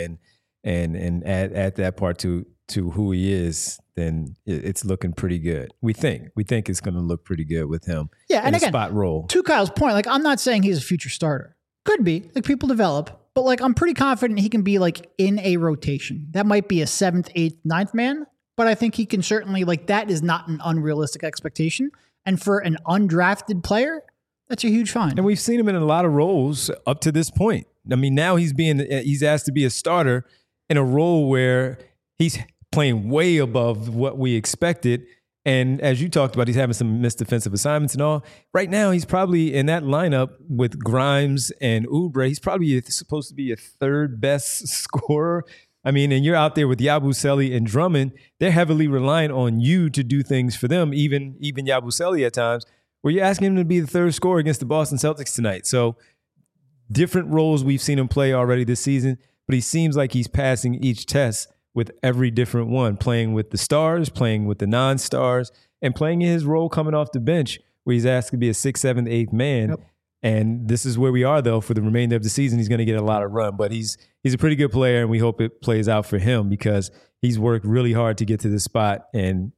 and add that part to who he is, then it's looking pretty good. We think it's going to look pretty good with him. Yeah, and again, spot role. To Kyle's point, like I'm not saying he's a future starter. Could be, like people develop, but like I'm pretty confident he can be like in a rotation. That might be a 7th, 8th, 9th man, but I think he can certainly, like, that is not an unrealistic expectation. And for an undrafted player, that's a huge find. And we've seen him in a lot of roles up to this point. I mean, now he's asked to be a starter in a role where he's playing way above what we expected. And as you talked about, he's having some missed defensive assignments and all. Right now, he's probably in that lineup with Grimes and Oubre. He's probably supposed to be a 3rd best scorer. I mean, and you're out there with Yabusele and Drummond. They're heavily reliant on you to do things for them, even Yabusele at times, where you're asking him to be the 3rd scorer against the Boston Celtics tonight. So different roles we've seen him play already this season, but he seems like he's passing each test with every different one, playing with the stars, playing with the non-stars, and playing in his role coming off the bench where he's asked to be a 6th, 7th, 8th man. Yep. And this is where we are, though, for the remainder of the season. He's going to get a lot of run, but he's a pretty good player, and we hope it plays out for him because he's worked really hard to get to this spot. And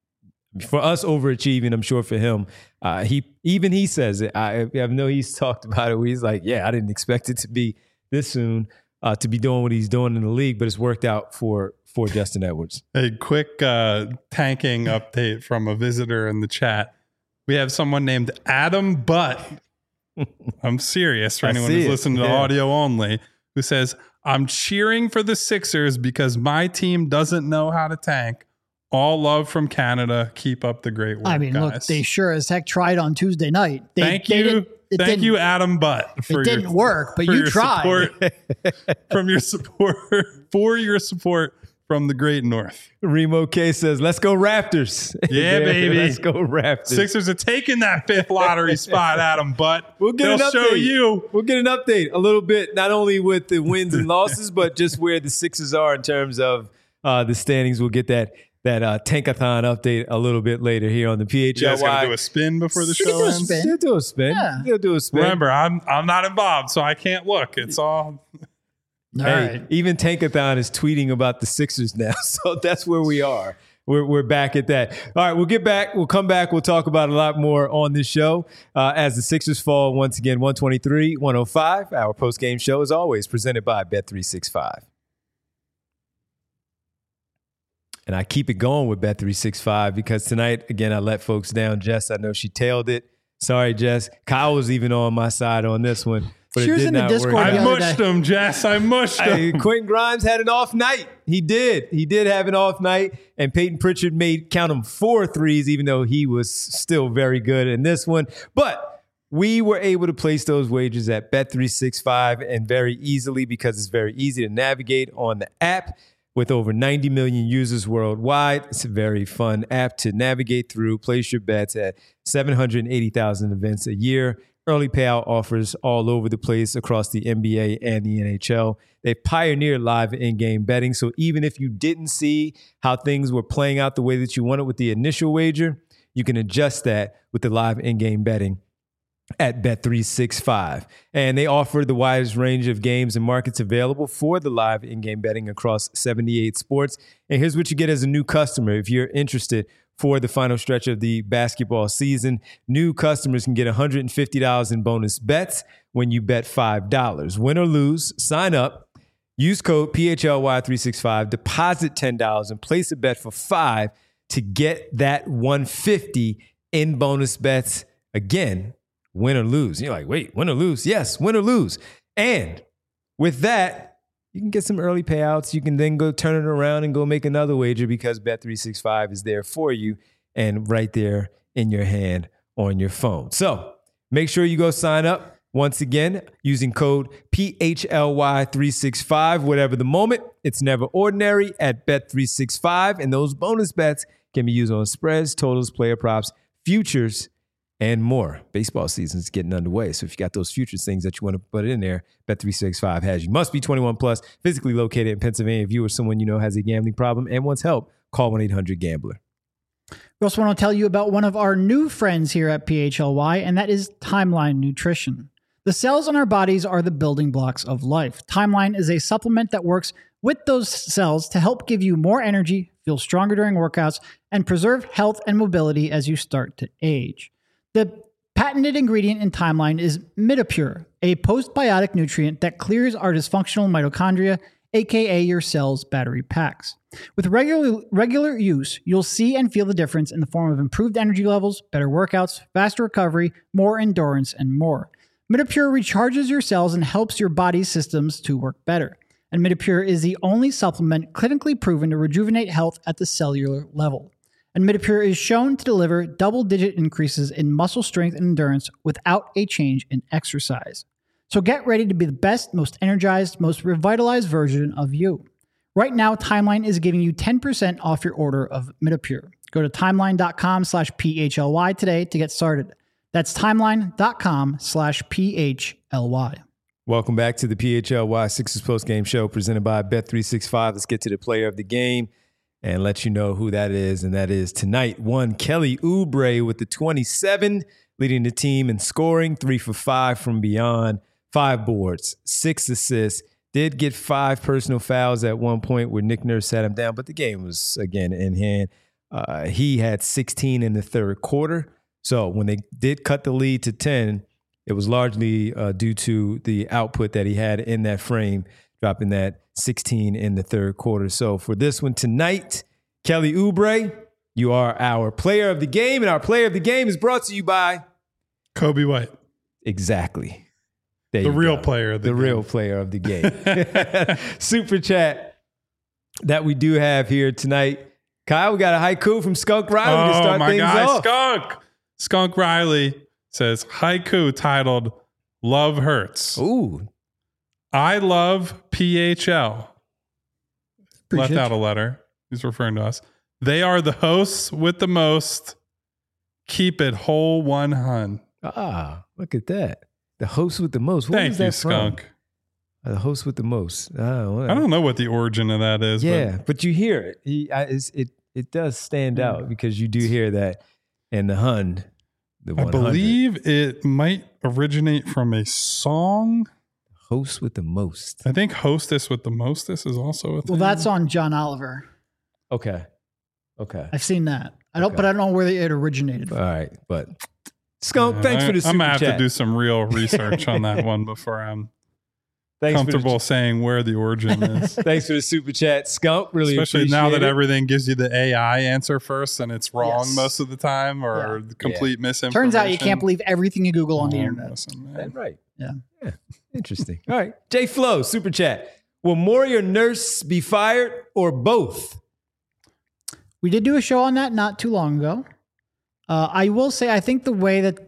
for us overachieving, I'm sure for him, he says it. I know he's talked about it where he's like, yeah, I didn't expect it to be this soon. To be doing what he's doing in the league, but it's worked out for Justin Edwards. A quick tanking update from a visitor in the chat. We have someone named Adam Butt. I'm serious for anyone who's listening to audio only, who says, I'm cheering for the Sixers because my team doesn't know how to tank. All love from Canada. Keep up the great work, I mean, guys. Look, they sure as heck tried on Tuesday night. Thank you, Adam Butt. It didn't work, but you tried. For your support from the Great North. Remo K says, let's go Raptors. Yeah, baby. Let's go Raptors. Sixers are taking that 5th lottery spot, Adam Butt. They'll show you. We'll get an update a little bit, not only with the wins and losses, but just where the Sixers are in terms of the standings. We'll get that Tankathon update a little bit later here on the PHLY. You guys got to do a spin before the show ends? They'll do a spin. Yeah. They'll do a spin. Remember, I'm not involved, so I can't look. It's all... Right. Even Tankathon is tweeting about the Sixers now, so that's where we are. We're back at that. All right, we'll get back. We'll come back. We'll talk about a lot more on this show as the Sixers fall once again 123-105. Our post-game show, as always, presented by Bet365. And I keep it going with Bet365 because tonight, again, I let folks down. Jess, I know she tailed it. Sorry, Jess. Kyle was even on my side on this one. But she was in the Discord. I mushed him, Jess. I mushed him. Quentin Grimes had an off night. He did. He did have an off night. And Peyton Pritchard made, count them, 4 threes, even though he was still very good in this one. But we were able to place those wagers at Bet365 and very easily because it's very easy to navigate on the app. With over 90 million users worldwide, it's a very fun app to navigate through. Place your bets at 780,000 events a year. Early payout offers all over the place across the NBA and the NHL. They've pioneered live in-game betting, so even if you didn't see how things were playing out the way that you wanted with the initial wager, you can adjust that with the live in-game betting at Bet365. And they offer the widest range of games and markets available for the live in-game betting across 78 sports. And here's what you get as a new customer. If you're interested for the final stretch of the basketball season, new customers can get $150 in bonus bets when you bet $5. Win or lose, sign up, use code PHLY365, deposit $10, and place a bet for $5 to get that $150 in bonus bets. Again, win or lose. You're like, wait, win or lose? Yes, win or lose. And with that, you can get some early payouts. You can then go turn it around and go make another wager because Bet365 is there for you and right there in your hand on your phone. So make sure you go sign up. Once again, using code PHLY365, whatever the moment, it's never ordinary at Bet365. And those bonus bets can be used on spreads, totals, player props, futures, and more. Baseball season is getting underway. So if you got those futures things that you want to put in there, Bet365 has you. Must be 21 plus, physically located in Pennsylvania. If you or someone you know has a gambling problem and wants help, call 1-800-GAMBLER. We also want to tell you about one of our new friends here at PHLY, and that is Timeline Nutrition. The cells in our bodies are the building blocks of life. Timeline is a supplement that works with those cells to help give you more energy, feel stronger during workouts, and preserve health and mobility as you start to age. The patented ingredient in Timeline is Midopure, a postbiotic nutrient that clears our dysfunctional mitochondria, aka your cell's battery packs. With regular use, you'll see and feel the difference in the form of improved energy levels, better workouts, faster recovery, more endurance, and more. Midopure recharges your cells and helps your body's systems to work better. And Midopure is the only supplement clinically proven to rejuvenate health at the cellular level. And Midopure is shown to deliver double-digit increases in muscle strength and endurance without a change in exercise. So get ready to be the best, most energized, most revitalized version of you. Right now, Timeline is giving you 10% off your order of Midopure. Go to timeline.com/PHLY today to get started. That's timeline.com/PHLY. Welcome back to the PHLY Sixers postgame show presented by Bet365. Let's get to the player of the game and let you know who that is. And that is tonight, one Kelly Oubre with the 27, leading the team in scoring, 3 for 5 from beyond, 5 boards, 6 assists. Did get 5 personal fouls at one point where Nick Nurse sat him down, but the game was, again, in hand. He had 16 in the third quarter. So when they did cut the lead to 10, it was largely due to the output that he had in that frame, dropping that 16 in the third quarter. So for this one tonight, Kelly Oubre, you are our player of the game, and our player of the game is brought to you by Kobe White. Exactly. The real player of the game. Real player of the game. Super chat that we do have here tonight. Kyle, we got a haiku from Skunk Riley to start things off. Skunk Riley says, haiku titled Love Hurts. Ooh. I love PHL. Appreciate Left out a letter. He's referring to us. They are the hosts with the most. Keep it whole 100. Ah, look at that. The host with the most. What Thank is that you, from? Skunk. The host with the most. Oh, I don't know what the origin of that is. Yeah, but you hear it. It does stand out because you do hear that in the Hun. The 100. I believe it might originate from a song. Host with the most. I think hostess with the mostest is also a thing. Well, that's on John Oliver. Okay. I've seen that. But I don't know where it originated from. All right, but Skunk, thanks for the super I'm gonna have chat. to do some real research on that one before I'm comfortable saying where the origin is. Thanks for the super chat, Skunk. Really Especially appreciate now that it. everything gives you the AI answer first and it's wrong Yes. most of the time or complete misinformation. Turns out you can't believe everything you Google on the internet. Listen, That's man. right. Yeah. Interesting. All right. Jay Flo, super chat. Will Morey or Nurse be fired or both? We did do a show on that not too long ago. I will say, I think the way that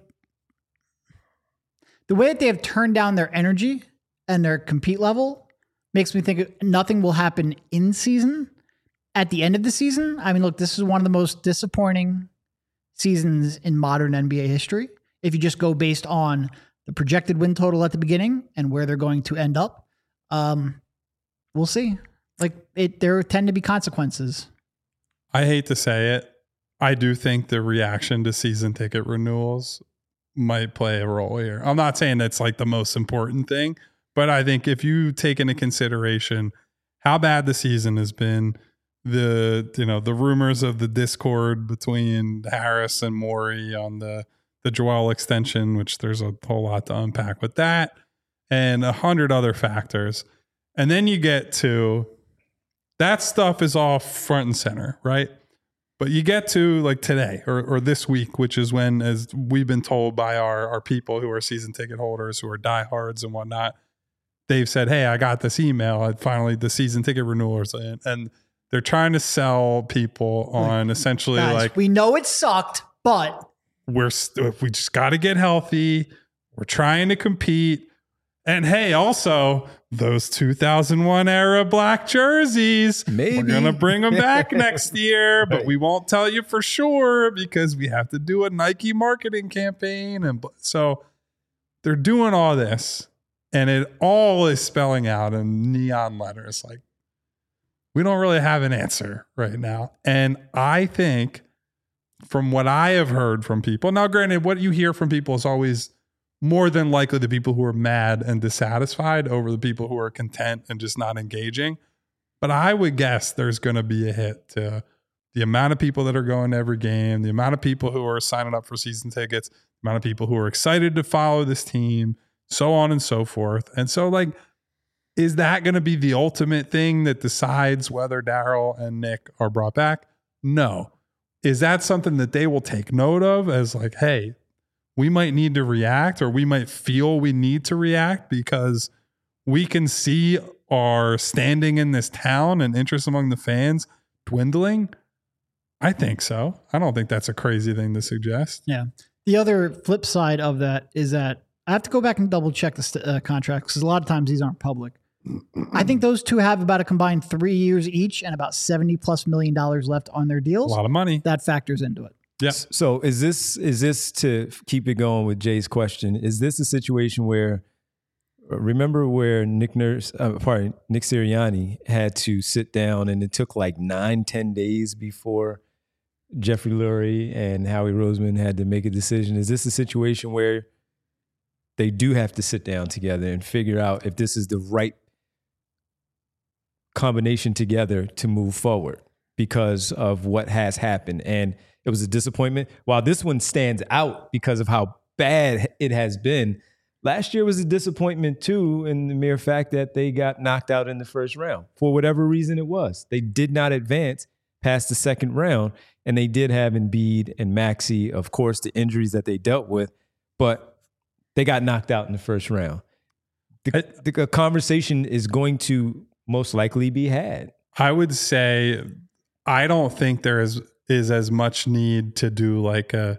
they have turned down their energy and their compete level makes me think nothing will happen in season. At the end of the season, I mean, look, this is one of the most disappointing seasons in modern NBA history. If you just go based on the projected win total at the beginning and where they're going to end up, we'll see. There tend to be consequences. I hate to say it. I do think the reaction to season ticket renewals might play a role here. I'm not saying that's like the most important thing, but I think if you take into consideration how bad the season has been, the rumors of the discord between Harris and Morey on the Joel extension, which there's a whole lot to unpack with that, and 100 other factors. And then you get to that stuff is all front and center, right? But you get to like today or this week, which is when, as we've been told by our people who are season ticket holders, who are diehards and whatnot, they've said, hey, I got this email. Finally, the season ticket renewals. And they're trying to sell people on essentially Guys, like, we know it sucked, but we just got to get healthy. We're trying to compete. And hey, also those 2001 era black jerseys, maybe we're going to bring them back next year, but Right. we won't tell you for sure because we have to do a Nike marketing campaign. And so they're doing all this, and it all is spelling out in neon letters. Like, we don't really have an answer right now. And I think from what I have heard from people, now granted, what you hear from people is always more than likely the people who are mad and dissatisfied over the people who are content and just not engaging. But I would guess there's going to be a hit to the amount of people that are going to every game, the amount of people who are signing up for season tickets, the amount of people who are excited to follow this team, so on and so forth. And so, like, is that going to be the ultimate thing that decides whether Daryl and Nick are brought back? No. Is that something that they will take note of as like, hey, we might need to react, or we might feel we need to react because we can see our standing in this town and interest among the fans dwindling? I think so. I don't think that's a crazy thing to suggest. yeah. The other flip side of that is that I have to go back and double check the contracts because a lot of times these aren't public. I think those two have about a combined 3 years each and about $70+ million left on their A deals. lot of money. That factors into it. Yeah. So is this to keep it going with Jay's question? Is this a situation where, remember where Nick Sirianni had to sit down and it took like 9-10 days before Jeffrey Lurie and Howie Roseman had to make a decision? Is this a situation where they do have to sit down together and figure out if this is the right combination together to move forward because of what has happened? And it was a disappointment. While this one stands out because of how bad it has been, last year was a disappointment too, in the mere fact that they got knocked out in the first round. For whatever reason it was, they did not advance past the second round, and they did have Embiid and Maxey, of course, the injuries that they dealt with, but they got knocked out in the first round. The conversation is going to most likely be had. I would say I don't think there is as much need to do like an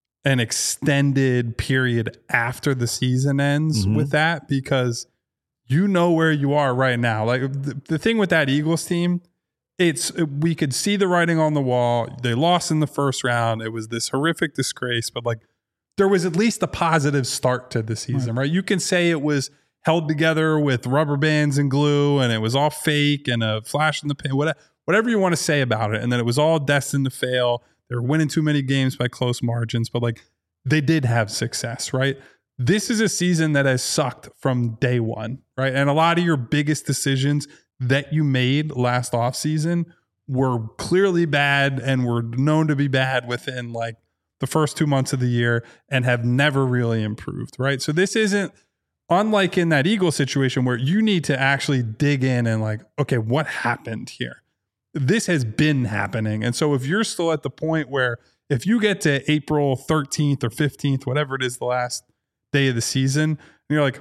extended period after the season ends with that, because you know where you are right now. Like the thing with that Eagles team, we could see the writing on the wall. They lost in the first round. It was this horrific disgrace, but like there was at least a positive start to the season, right? You can say it was held together with rubber bands and glue and it was all fake and a flash in the pan, whatever you want to say about it. And then it was all destined to fail. They were winning too many games by close margins, but like they did have success, right? This is a season that has sucked from day one, right? And a lot of your biggest decisions that you made last offseason were clearly bad and were known to be bad within like the first 2 months of the year and have never really improved, right? So this isn't unlike in that Eagle situation where you need to actually dig in and like, okay, what happened here? This has been happening. And so if you're still at the point where if you get to April 13th or 15th, whatever it is, the last day of the season, and you're like,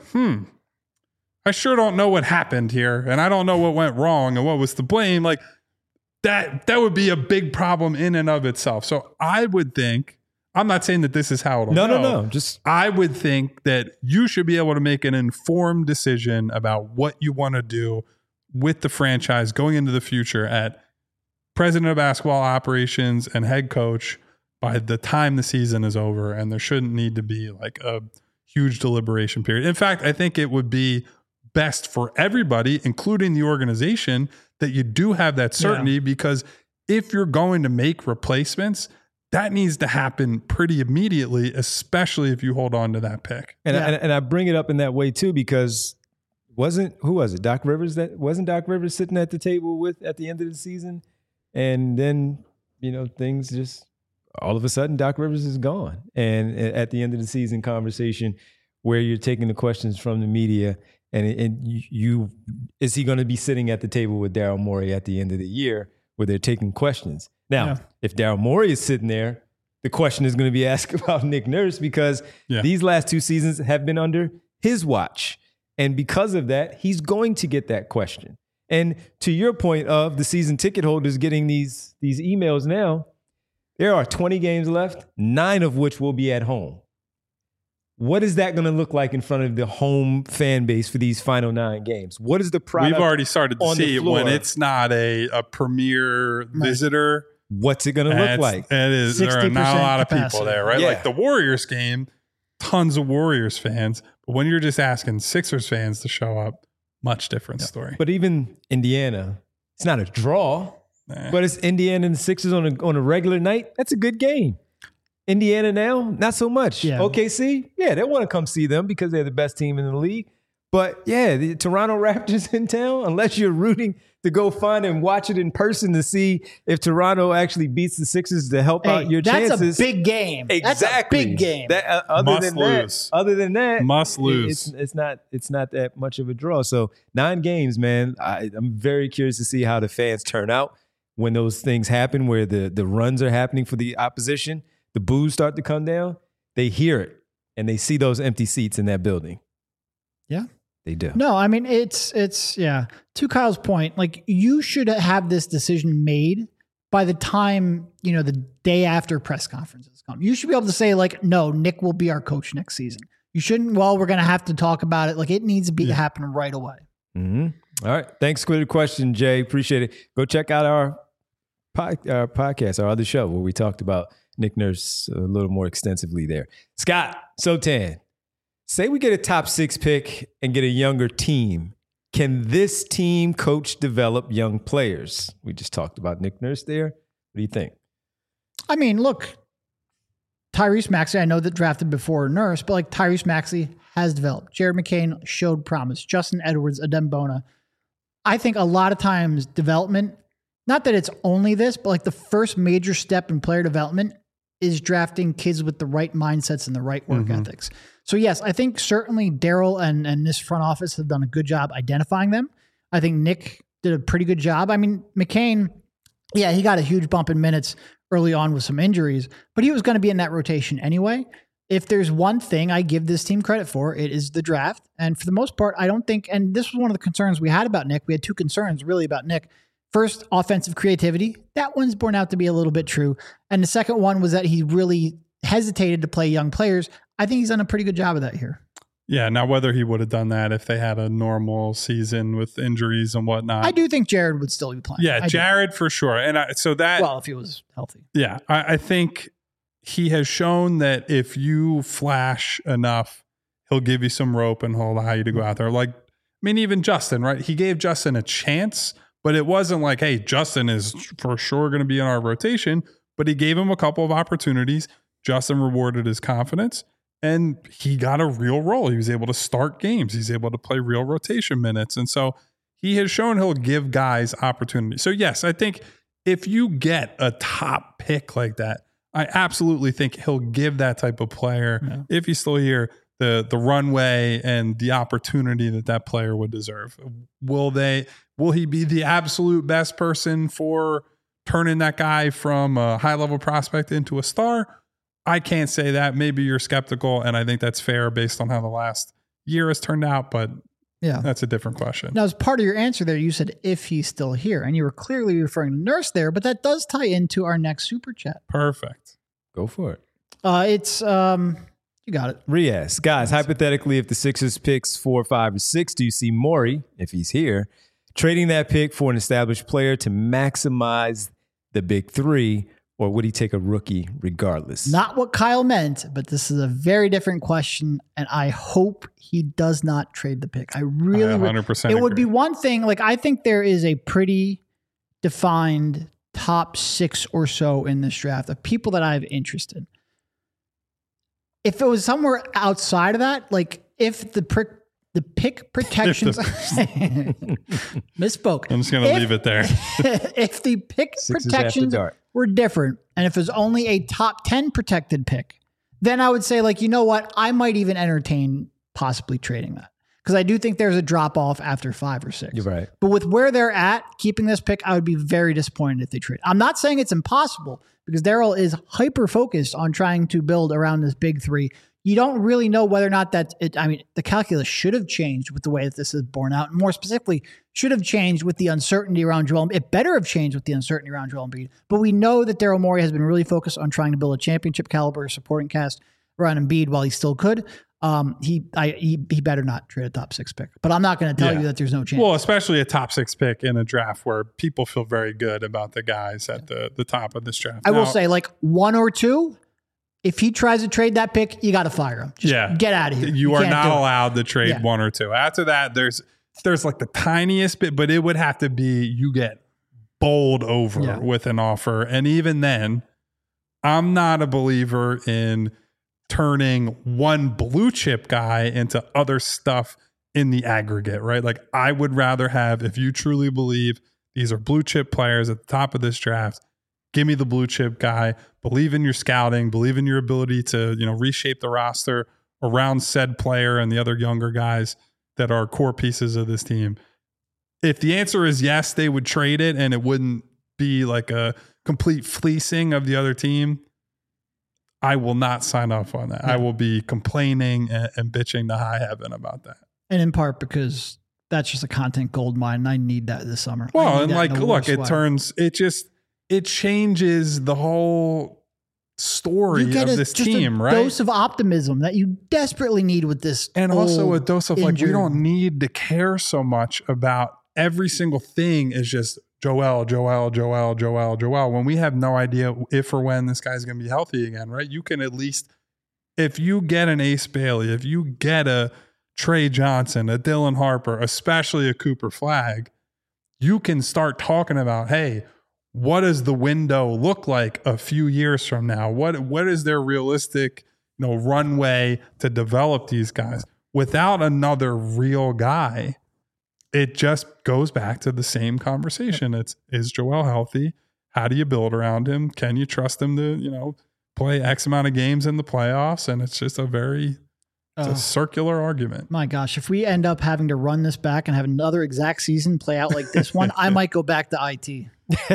I sure don't know what happened here. And I don't know what went wrong and what was to blame. Like that would be a big problem in and of itself. So I would think, I'm not saying that this is how it'll go. No. I would think that you should be able to make an informed decision about what you want to do with the franchise going into the future at president of basketball operations and head coach by the time the season is over. And there shouldn't need to be like a huge deliberation period. In fact, I think it would be best for everybody, including the organization, that you do have that certainty, because if you're going to make replacements, that needs to happen pretty immediately, especially if you hold on to that pick. And I bring it up in that way too, because who was it? Doc Rivers wasn't Doc Rivers sitting at the table at the end of the season? And then, things just all of a sudden Doc Rivers is gone. And at the end of the season conversation where you're taking the questions from the media and is he going to be sitting at the table with Daryl Morey at the end of the year where they're taking questions? Now, if Daryl Morey is sitting there, the question is going to be asked about Nick Nurse, because these last two seasons have been under his watch. And because of that, he's going to get that question. And to your point of the season ticket holders getting these emails now, there are 20 games left, 9 of which will be at home. What is that going to look like in front of the home fan base for these final 9 games? What is the product? We've already started to see it when it's not a premier visitor. What's it going to look like? It is. There are not a lot of capacity. people there, right? Yeah. Like the Warriors game, tons of Warriors fans. But when you're just asking Sixers fans to show up, much different story. But even Indiana, it's not a draw, but it's Indiana and the Sixers on a regular night. That's a good game. Indiana now, not so much. Yeah. OKC, they want to come see them because they're the best team in the league. But the Toronto Raptors in town, unless you're rooting to go find and watch it in person to see if Toronto actually beats the Sixers to help out your chances. That's a big game. Exactly. That's a big game. Other than that, must lose. It's not that much of a draw. So 9 games, man. I'm very curious to see how the fans turn out when those things happen, where the runs are happening for the opposition. The boos start to come down. They hear it and they see those empty seats in that building. Yeah. They do. No, I mean, it's to Kyle's point, like you should have this decision made by the time, the day after press conferences come. You should be able to say like, no, Nick will be our coach next season. You shouldn't, we're going to have to talk about it. Like it needs to happen right away. Mm-hmm. All right. Thanks for the question, Jay. Appreciate it. Go check out our podcast, our other show where we talked about Nick Nurse a little more extensively there. Scott Sotan, say we get a top 6 pick and get a younger team. Can this team coach develop young players? We just talked about Nick Nurse there. What do you think? I mean, look, Tyrese Maxey, I know that drafted before Nurse, but like Tyrese Maxey has developed. Jared McCain showed promise. Justin Edwards, Adem Bona. I think a lot of times development, not that it's only this, but like the first major step in player development is drafting kids with the right mindsets and the right work ethics. So yes, I think certainly Daryl and this front office have done a good job identifying them. I think Nick did a pretty good job. I mean, McCain, he got a huge bump in minutes early on with some injuries, but he was going to be in that rotation anyway. If there's one thing I give this team credit for, it is the draft. And for the most part, I don't think, and this was one of the concerns we had about Nick. We had 2 concerns really about Nick. First, offensive creativity. That one's borne out to be a little bit true. And the second one was that he really hesitated to play young players. I think he's done a pretty good job of that here. Yeah. Now, whether he would have done that if they had a normal season with injuries and whatnot. I do think Jared would still be playing. Yeah, Jared for sure. And if he was healthy. Yeah. I think he has shown that if you flash enough, he'll give you some rope and he'll allow you to go out there. Like, I mean, even Justin, right? He gave Justin a chance. But it wasn't like, hey, Justin is for sure going to be in our rotation. But he gave him a couple of opportunities. Justin rewarded his confidence, and he got a real role. He was able to start games. He's able to play real rotation minutes. And so he has shown he'll give guys opportunities. So, yes, I think if you get a top pick like that, I absolutely think he'll give that type of player, if he's still here, the runway and the opportunity that player would deserve. Will he be the absolute best person for turning that guy from a high-level prospect into a star? I can't say that. Maybe you're skeptical, and I think that's fair based on how the last year has turned out, but that's a different question. Now, as part of your answer there, you said if he's still here, and you were clearly referring to Nurse there, but that does tie into our next super chat. Perfect. Go for it. It's you got it. Riaz, guys, hypothetically, if the Sixers picks 4, 5, or 6, do you see Morey, if he's here, trading that pick for an established player to maximize the big 3, or would he take a rookie regardless? Not what Kyle meant, but this is a very different question, and I hope he does not trade the pick. I really 100% It would be one thing, like I think there is a pretty defined top 6 or so in this draft of people that I have interest in. If it was somewhere outside of that, like if the pick protections misspoke. I'm just going to leave it there. If the pick Sixers protections were different, and if it was only a top 10 protected pick, then I would say, like, you know what? I might even entertain possibly trading that. Because I do think there's a drop off after 5 or 6. You're right. But with where they're at, keeping this pick, I would be very disappointed if they trade. I'm not saying it's impossible, because Daryl is hyper focused on trying to build around this big 3. you don't really know whether or not that the calculus should have changed with the way that this is borne out. And more specifically, should have changed with the uncertainty around Joel. It better have changed with the uncertainty around Joel Embiid. But we know that Daryl Morey has been really focused on trying to build a championship caliber supporting cast around Embiid while he still could. He better not trade a top 6 pick. But I'm not going to tell you that there's no chance. Well, especially a top 6 pick in a draft where people feel very good about the guys at the top of this draft. I will say, like 1 or 2, if he tries to trade that pick, you got to fire him. Just get out of here. You are not allowed to trade 1 or 2. After that, there's like the tiniest bit, but it would have to be you get bowled over with an offer. And even then, I'm not a believer in turning one blue chip guy into other stuff in the aggregate, right? Like I would rather have, if you truly believe these are blue chip players at the top of this draft, give me the blue chip guy, believe in your scouting, believe in your ability to, reshape the roster around said player and the other younger guys that are core pieces of this team. If the answer is yes, they would trade it and it wouldn't be like a complete fleecing of the other team, I will not sign off on that. I will be complaining and bitching to high heaven about that. And in part because that's just a content gold mine, and I need that this summer. Well, and like, look, it changes the whole story of this team, right? A dose of optimism that you desperately need with this. And also a dose of like, we don't need to care so much about every single thing is just Joel. When we have no idea if or when this guy's going to be healthy again, right? You can at least, if you get an Ace Bailey, if you get a Trey Johnson, a Dylan Harper, especially a Cooper Flagg, you can start talking about, hey, what does the window look like a few years from now? What is their realistic, runway to develop these guys? Without another real guy, it just goes back to the same conversation. Is Joel healthy? How do you build around him? Can you trust him to, play X amount of games in the playoffs? And it's just it's a circular argument. My gosh, if we end up having to run this back and have another exact season play out like this one, I might go back to IT.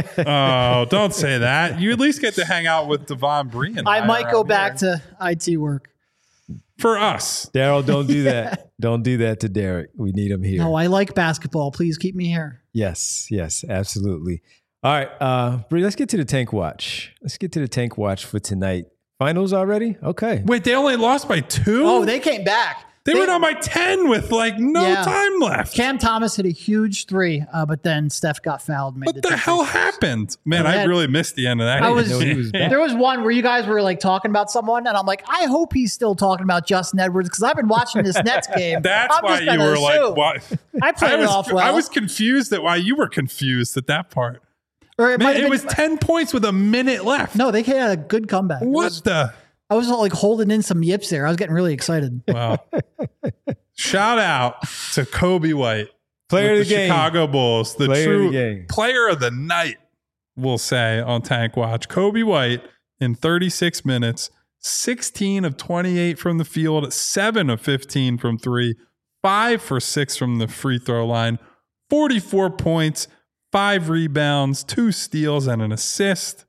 Oh, don't say that. You at least get to hang out with Devon Bree. I might go back to IT work. For us. Daryl, don't do that. Don't do that to Derek. We need him here. No, I like basketball. Please keep me here. Yes, absolutely. All right, Bree, let's get to the Tank Watch. Let's get to the Tank Watch for tonight. Finals already? Okay. Wait, they only lost by 2? Oh, they came back. They went on by 10 with no time left. Cam Thomas hit a huge 3, but then Steph got fouled. What the hell happened? Man, I really missed the end of that. There was one where you guys were like talking about someone, and I'm like, I hope he's still talking about Justin Edwards because I've been watching this Nets game. That's why you were like, what? I played it off well. I was confused at why you were confused at that part. Or it was 10 points with a minute left. No, they had a good comeback. I was like holding in some yips there. I was getting really excited. Wow. Shout out to Kobe White. Player of the game. Chicago Bulls. The true player of the night, we'll say, on Tank Watch. Kobe White in 36 minutes, 16 of 28 from the field, 7 of 15 from 3, 5 for 6 from the free throw line, 44 points, 5 rebounds, 2 steals, and an assist.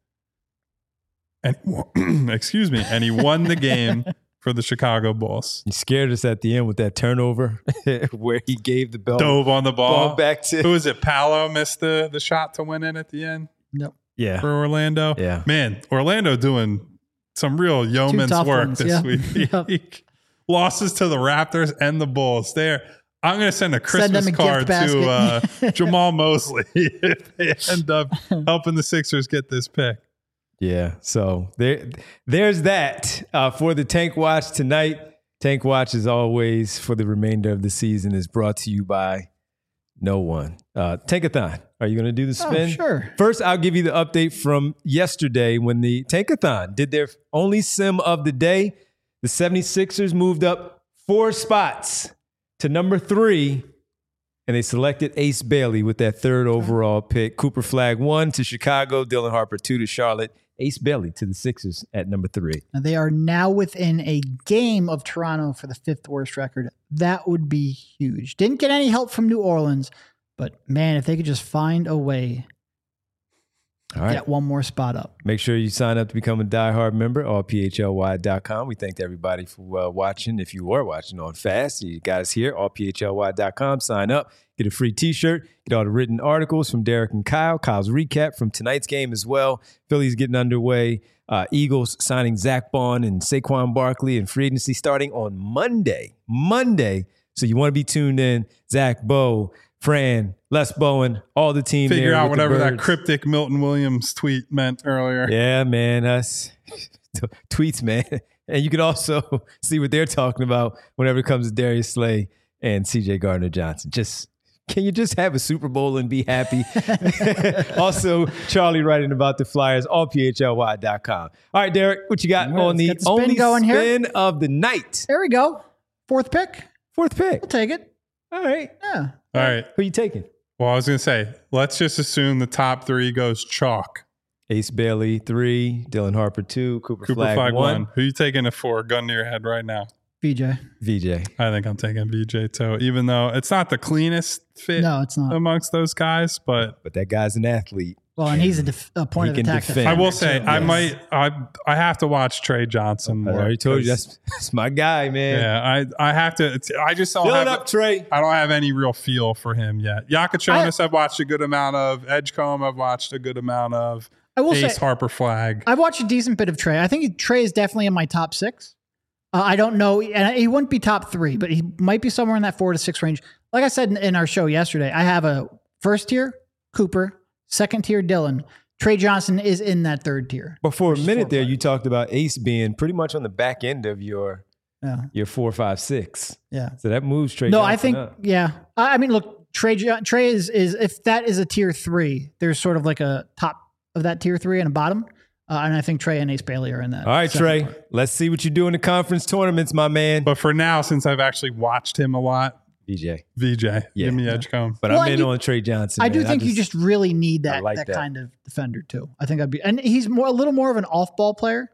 And and he won the game for the Chicago Bulls. He scared us at the end with that turnover where he gave the ball. Dove on the ball back to. Who was it? Paolo missed the shot to win it at the end? Yep. Yeah. For Orlando? Yeah. Man, Orlando doing some real yeoman's work this week. Yep. Losses to the Raptors and the Bulls. I'm going to send a Christmas card to Jamal Mosley if they end up helping the Sixers get this pick. Yeah, so there's that for the Tank Watch tonight. Tank Watch, as always, for the remainder of the season is brought to you by no one. Tankathon, are you going to do the spin? Oh, sure. First, I'll give you the update from yesterday when the Tankathon did their only sim of the day. The 76ers moved up 4 spots to number 3, and they selected Ace Bailey with that 3rd overall pick. Cooper Flagg 1 to Chicago, Dylan Harper 2 to Charlotte, Ace Bailey to the Sixers at number 3. Now they are now within a game of Toronto for the 5th worst record. That would be huge. Didn't get any help from New Orleans, but man, if they could just find a way. All right. get one more spot up. Make sure you sign up to become a diehard member, allphly.com. We thank everybody for watching. If you are watching on Fast, you got us here, allphly.com. Sign up, get a free t-shirt, get all the written articles from Derek and Kyle, Kyle's recap from tonight's game as well. Phillies getting underway. Eagles signing Zach Bond and Saquon Barkley and free agency starting on Monday. So you want to be tuned in. Zach, Bo, Fran, Les Bowen, all the team. Figure out whatever that cryptic Milton Williams tweet meant earlier. Yeah, man. Us tweets, man. And you can also see what they're talking about whenever it comes to Darius Slay and CJ Gardner-Johnson. Can you just have a Super Bowl and be happy? Also, Charlie writing about the Flyers, allphly.com. All right, Derek, what you got on the only spin of the night? There we go. Fourth pick. We'll take it. All right. Yeah. All right. Who are you taking? Well, I was going to say, let's just assume the top three goes chalk. Ace Bailey, 3. Dylan Harper, 2. Cooper Flagg, 1. Who are you taking it for? Gun to your head right now. VJ. I think I'm taking VJ too, even though it's not the cleanest fit it's not. amongst those guys, but that guy's an athlete. Well, and he's a point of attack defender. I will say, I have to watch Trey Johnson more. I already told you, that's my guy, man. Yeah, I have to. I just don't Fill it up, Trey. I don't have any real feel for him yet. Yakachonis, I've watched a good amount of. Edgecombe, I've watched a good amount of. I will Ace say, Harper Flagg. I've watched a decent bit of Trey. I think Trey is definitely in my top 6. I don't know, and he wouldn't be top 3, but he might be somewhere in that 4 to 6 range. Like I said in our show yesterday, I have a first tier Cooper, second tier Dylan. Trey Johnson is in that third tier. But for a minute there, you talked about Ace being pretty much on the back end of your 4, 5, 6. Yeah. So that moves Trey Johnson I think, up. yeah. I mean, look, Trey is if that is a tier 3, there's sort of like a top of that tier 3 and a bottom. And I think Trey and Ace Bailey are in that. All right, Trey, let's see what you do in the conference tournaments, my man. But for now, since I've actually watched him a lot, VJ, give me Edgecombe. But I'm in on Trey Johnson. I do think you just really need that kind of defender too. I think and he's a little more of an off-ball player.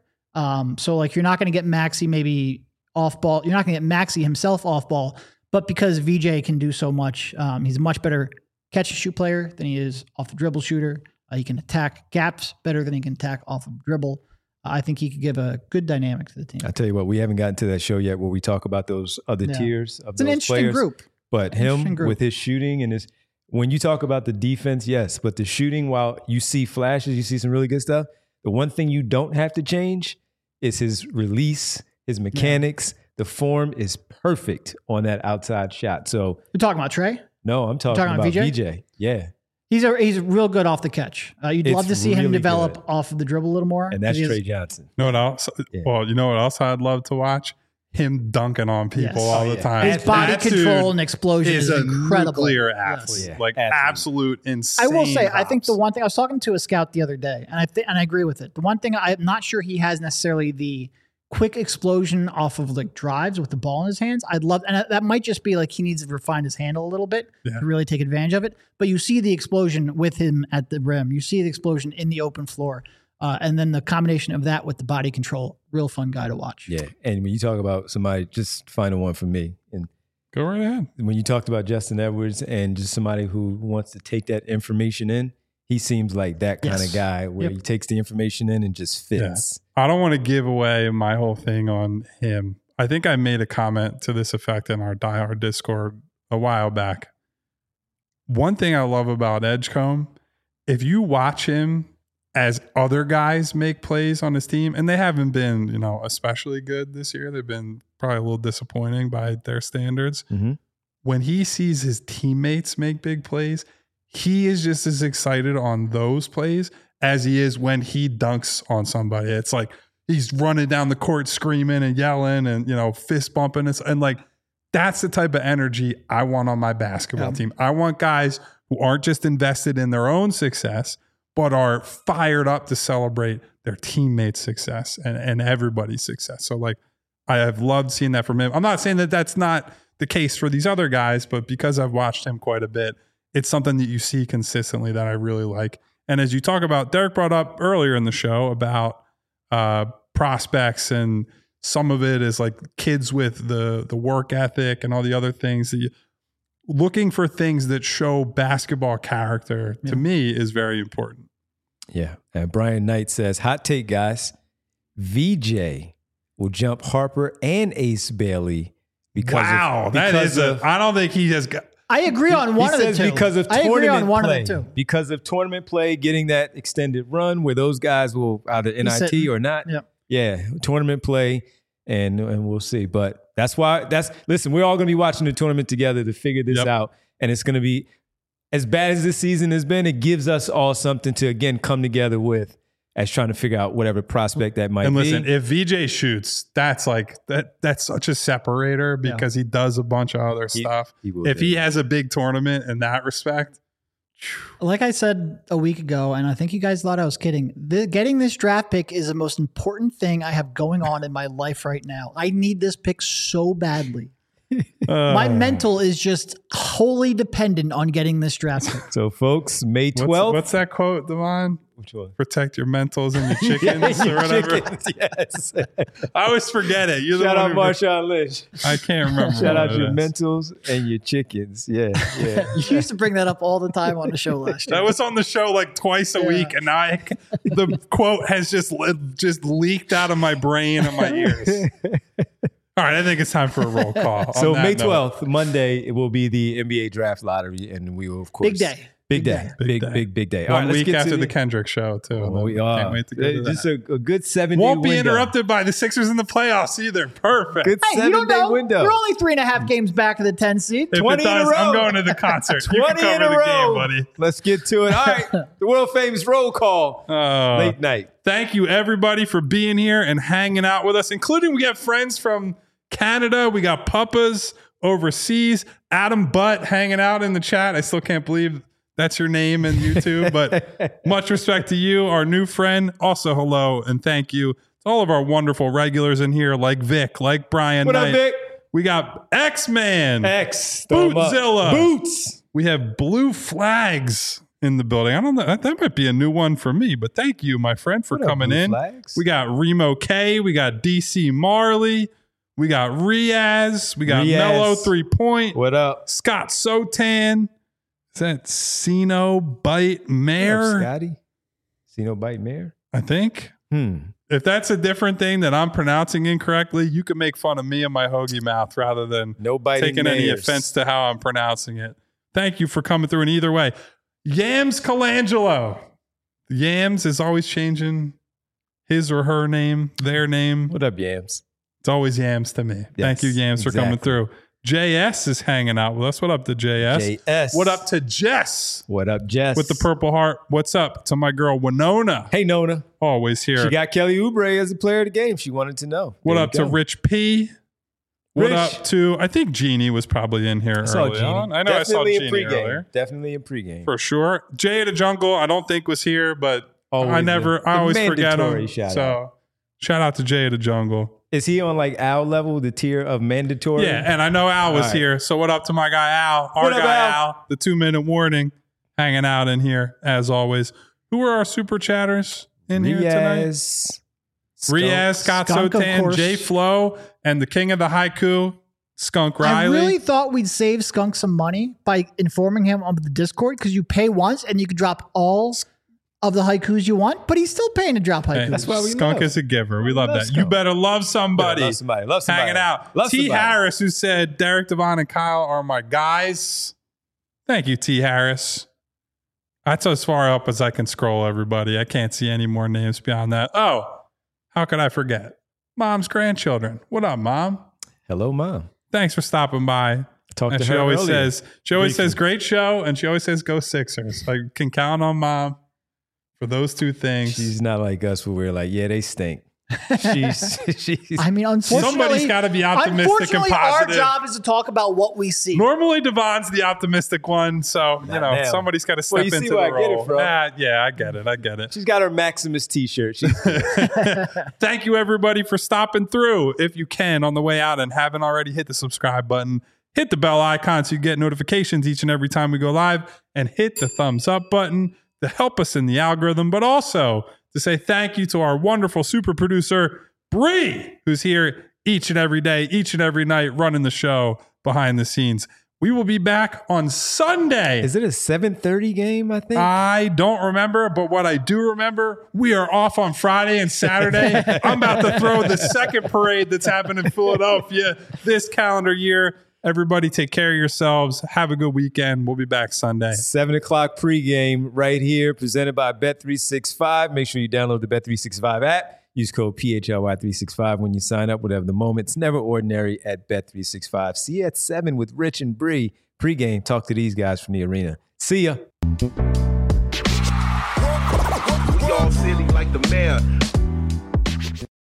So like you're not going to get Maxey maybe off-ball. You're not going to get Maxey himself off-ball. But because VJ can do so much, he's a much better catch-and-shoot player than he is off-the-dribble shooter. He can attack gaps better than he can attack off of dribble. I think he could give a good dynamic to the team. I tell you what, we haven't gotten to that show yet where we talk about those other tiers of those players. It's an interesting group. But with his shooting and when you talk about the defense, yes, but the shooting, while you see flashes, you see some really good stuff, the one thing you don't have to change is his release, his mechanics. The form is perfect on that outside shot. So you're talking about Trey? No, I'm talking about VJ. Yeah. He's real good off the catch. You'd love to see him develop off of the dribble a little more. And that's Trey Johnson. You know what else? Yeah. Well, you know what else I'd love to watch? Him dunking on people all the time. His body control and explosion is incredible. Nuclear athlete. Yes. Like absolute insane. I will say, hops. I think the one thing, I was talking to a scout the other day, and I agree with it. The one thing I'm not sure he has necessarily the quick explosion off of like drives with the ball in his hands. I'd love, and that might just be like he needs to refine his handle a little bit to really take advantage of it. But you see the explosion with him at the rim. You see the explosion in the open floor. And then the combination of that with the body control, real fun guy to watch. Yeah. And when you talk about somebody, just find one for me. And go right ahead. When you talked about Justin Edwards and just somebody who wants to take that information in, he seems like that kind of guy where he takes the information in and just fits. Yeah. I don't want to give away my whole thing on him. I think I made a comment to this effect in our Die Hard Discord a while back. One thing I love about Edgecombe, if you watch him as other guys make plays on his team, and they haven't been, especially good this year. They've been probably a little disappointing by their standards. Mm-hmm. When he sees his teammates make big plays, he is just as excited on those plays as he is when he dunks on somebody. It's like he's running down the court screaming and yelling and, fist bumping. And like, that's the type of energy I want on my basketball team. I want guys who aren't just invested in their own success, but are fired up to celebrate their teammates' success and everybody's success. So like, I have loved seeing that from him. I'm not saying that that's not the case for these other guys, but because I've watched him quite a bit, it's something that you see consistently that I really like. And as you talk about, Derek brought up earlier in the show about prospects, and some of it is like kids with the work ethic and all the other things. Looking for things that show basketball character to me is very important. Yeah. And Brian Knight says, hot take, guys. VJ will jump Harper and Ace Bailey because I don't think he has got. I agree on one of the two. Because of I agree on tournament one play. of the two. Because of tournament play, getting that extended run where those guys will either NIT or not. Yep. Yeah, tournament play, and we'll see. But listen, we're all going to be watching the tournament together to figure this out. And it's going to be, as bad as this season has been, it gives us all something to, again, come together with as trying to figure out whatever prospect that might be. And listen, if VJ shoots, that's like that's such a separator because he does a bunch of other stuff. He has a big tournament in that respect. Like I said a week ago, and I think you guys thought I was kidding, getting this draft pick is the most important thing I have going on in my life right now. I need this pick so badly. My mental is just wholly dependent on getting this draft pick. So, folks, May 12th. What's that quote, Devon? Which one? Protect your mentals and your chickens or whatever. Chickens, yes. I always forget it. Shout out Marshawn Lynch. I can't remember. Shout out your mentals and your chickens. Yeah. You used to bring that up all the time on the show last year. That was on the show like twice a week, and the quote has just leaked out of my brain and my ears. All right, I think it's time for a roll call. So May 12th, Monday, it will be the NBA draft lottery, and we will, of course. Big day. Big day. One week after the Kendrick show, too. Can't wait to get to just that. a good 7-day Won't be window. interrupted by the Sixers in the playoffs either. Perfect. Good Hey, you don't 7-day know. window. You're only 3.5 games back of the 10 seed. If 20 it does, in a row. I'm going to the concert. 20 You can cover in a the row. game, buddy. Let's get to it. All right, the world famous roll call. Late night. Thank you, everybody, for being here and hanging out with us, including we have friends from Canada. We got Puppas overseas. Adam Butt hanging out in the chat. I still can't believe that's your name in YouTube, but much respect to you, our new friend. Also, hello and thank you to all of our wonderful regulars in here, like Vic, like Brian What Knight. up, Vic? We got X-Man, X. Bootzilla, Boots. We have Blue Flags in the building. I don't know. That might be a new one for me, but thank you, my friend, for What up, coming Blue in. Flags? We got Remo K. We got DC Marley. We got Riaz. We got Mellow 3-Point. What up? Scott Sotan. Is that Sino Bite Mare? Scotty? Sino Bite Mare? I think. If that's a different thing that I'm pronouncing incorrectly, you can make fun of me and my hoagie mouth rather than taking any offense to how I'm pronouncing it. Thank you for coming through. And either way, Yams Colangelo. Yams is always changing his or her name, their name. What up, Yams? It's always Yams to me. Yes, Thank you, Yams, for coming through. JS is hanging out with us. What up to JS? JS. What up to Jess? What up, Jess? With the Purple Heart. What's up to my girl Winona? Hey, Nona. Always here. She got Kelly Oubre as a player of the game. She wanted to know. What up to Rich P? What up to, I think Jeannie was probably in here early on. I know I saw Jeannie earlier. Definitely in pregame. For sure. Jay of the Jungle, I don't think was here, but I always forget him. So shout out to Jay of the Jungle. Is he on like Al level, the tier of mandatory? Yeah, and I know Al was here. So what up to my guy Al? Our guy Al, the 2-minute warning, hanging out in here as always. Who are our super chatters in here tonight? Riaz, Scott Sotan, Jay Flo, and the king of the haiku, Skunk Riley. I really thought we'd save Skunk some money by informing him on the Discord because you pay once and you can drop all of the haikus you want, but he's still paying to drop haikus. Hey, that's why Skunk is a giver. We love that. Skunk. You better love somebody. Love somebody. Hanging out. T. Harris, who said Derek, Devon, and Kyle are my guys. Thank you, T. Harris. That's as far up as I can scroll, everybody. I can't see any more names beyond that. Oh, how could I forget? Mom's grandchildren. What up, Mom? Hello, Mom. Thanks for stopping by. Talked to she her always earlier. says, great show, and she always says, go Sixers. I can count on Mom for those two things. She's not like us where we're like, yeah, they stink. She's I mean, unfortunately, somebody's got to be optimistic and positive. Our job is to talk about what we see. Normally, Devon's the optimistic one, so somebody's got to step into the role. I get it from. Yeah, I get it. She's got her Maximus T-shirt. Thank you, everybody, for stopping through. If you can, on the way out and haven't already, hit the subscribe button, hit the bell icon so you get notifications each and every time we go live, and hit the thumbs up button to help us in the algorithm, but also to say thank you to our wonderful super producer, Bree, who's here each and every day, each and every night, running the show behind the scenes. We will be back on Sunday. Is it a 7:30 game, I think? I don't remember, but what I do remember, we are off on Friday and Saturday. I'm about to throw the second parade that's happened in Philadelphia this calendar year. Everybody take care of yourselves. Have a good weekend. We'll be back Sunday. 7 o'clock pregame right here, presented by Bet365. Make sure you download the Bet365 app. Use code PHLY365 when you sign up. Whatever the moment, it's never ordinary at Bet365. See you at 7 with Rich and Bree. Pregame, talk to these guys from the arena. See ya. We all silly like the mayor.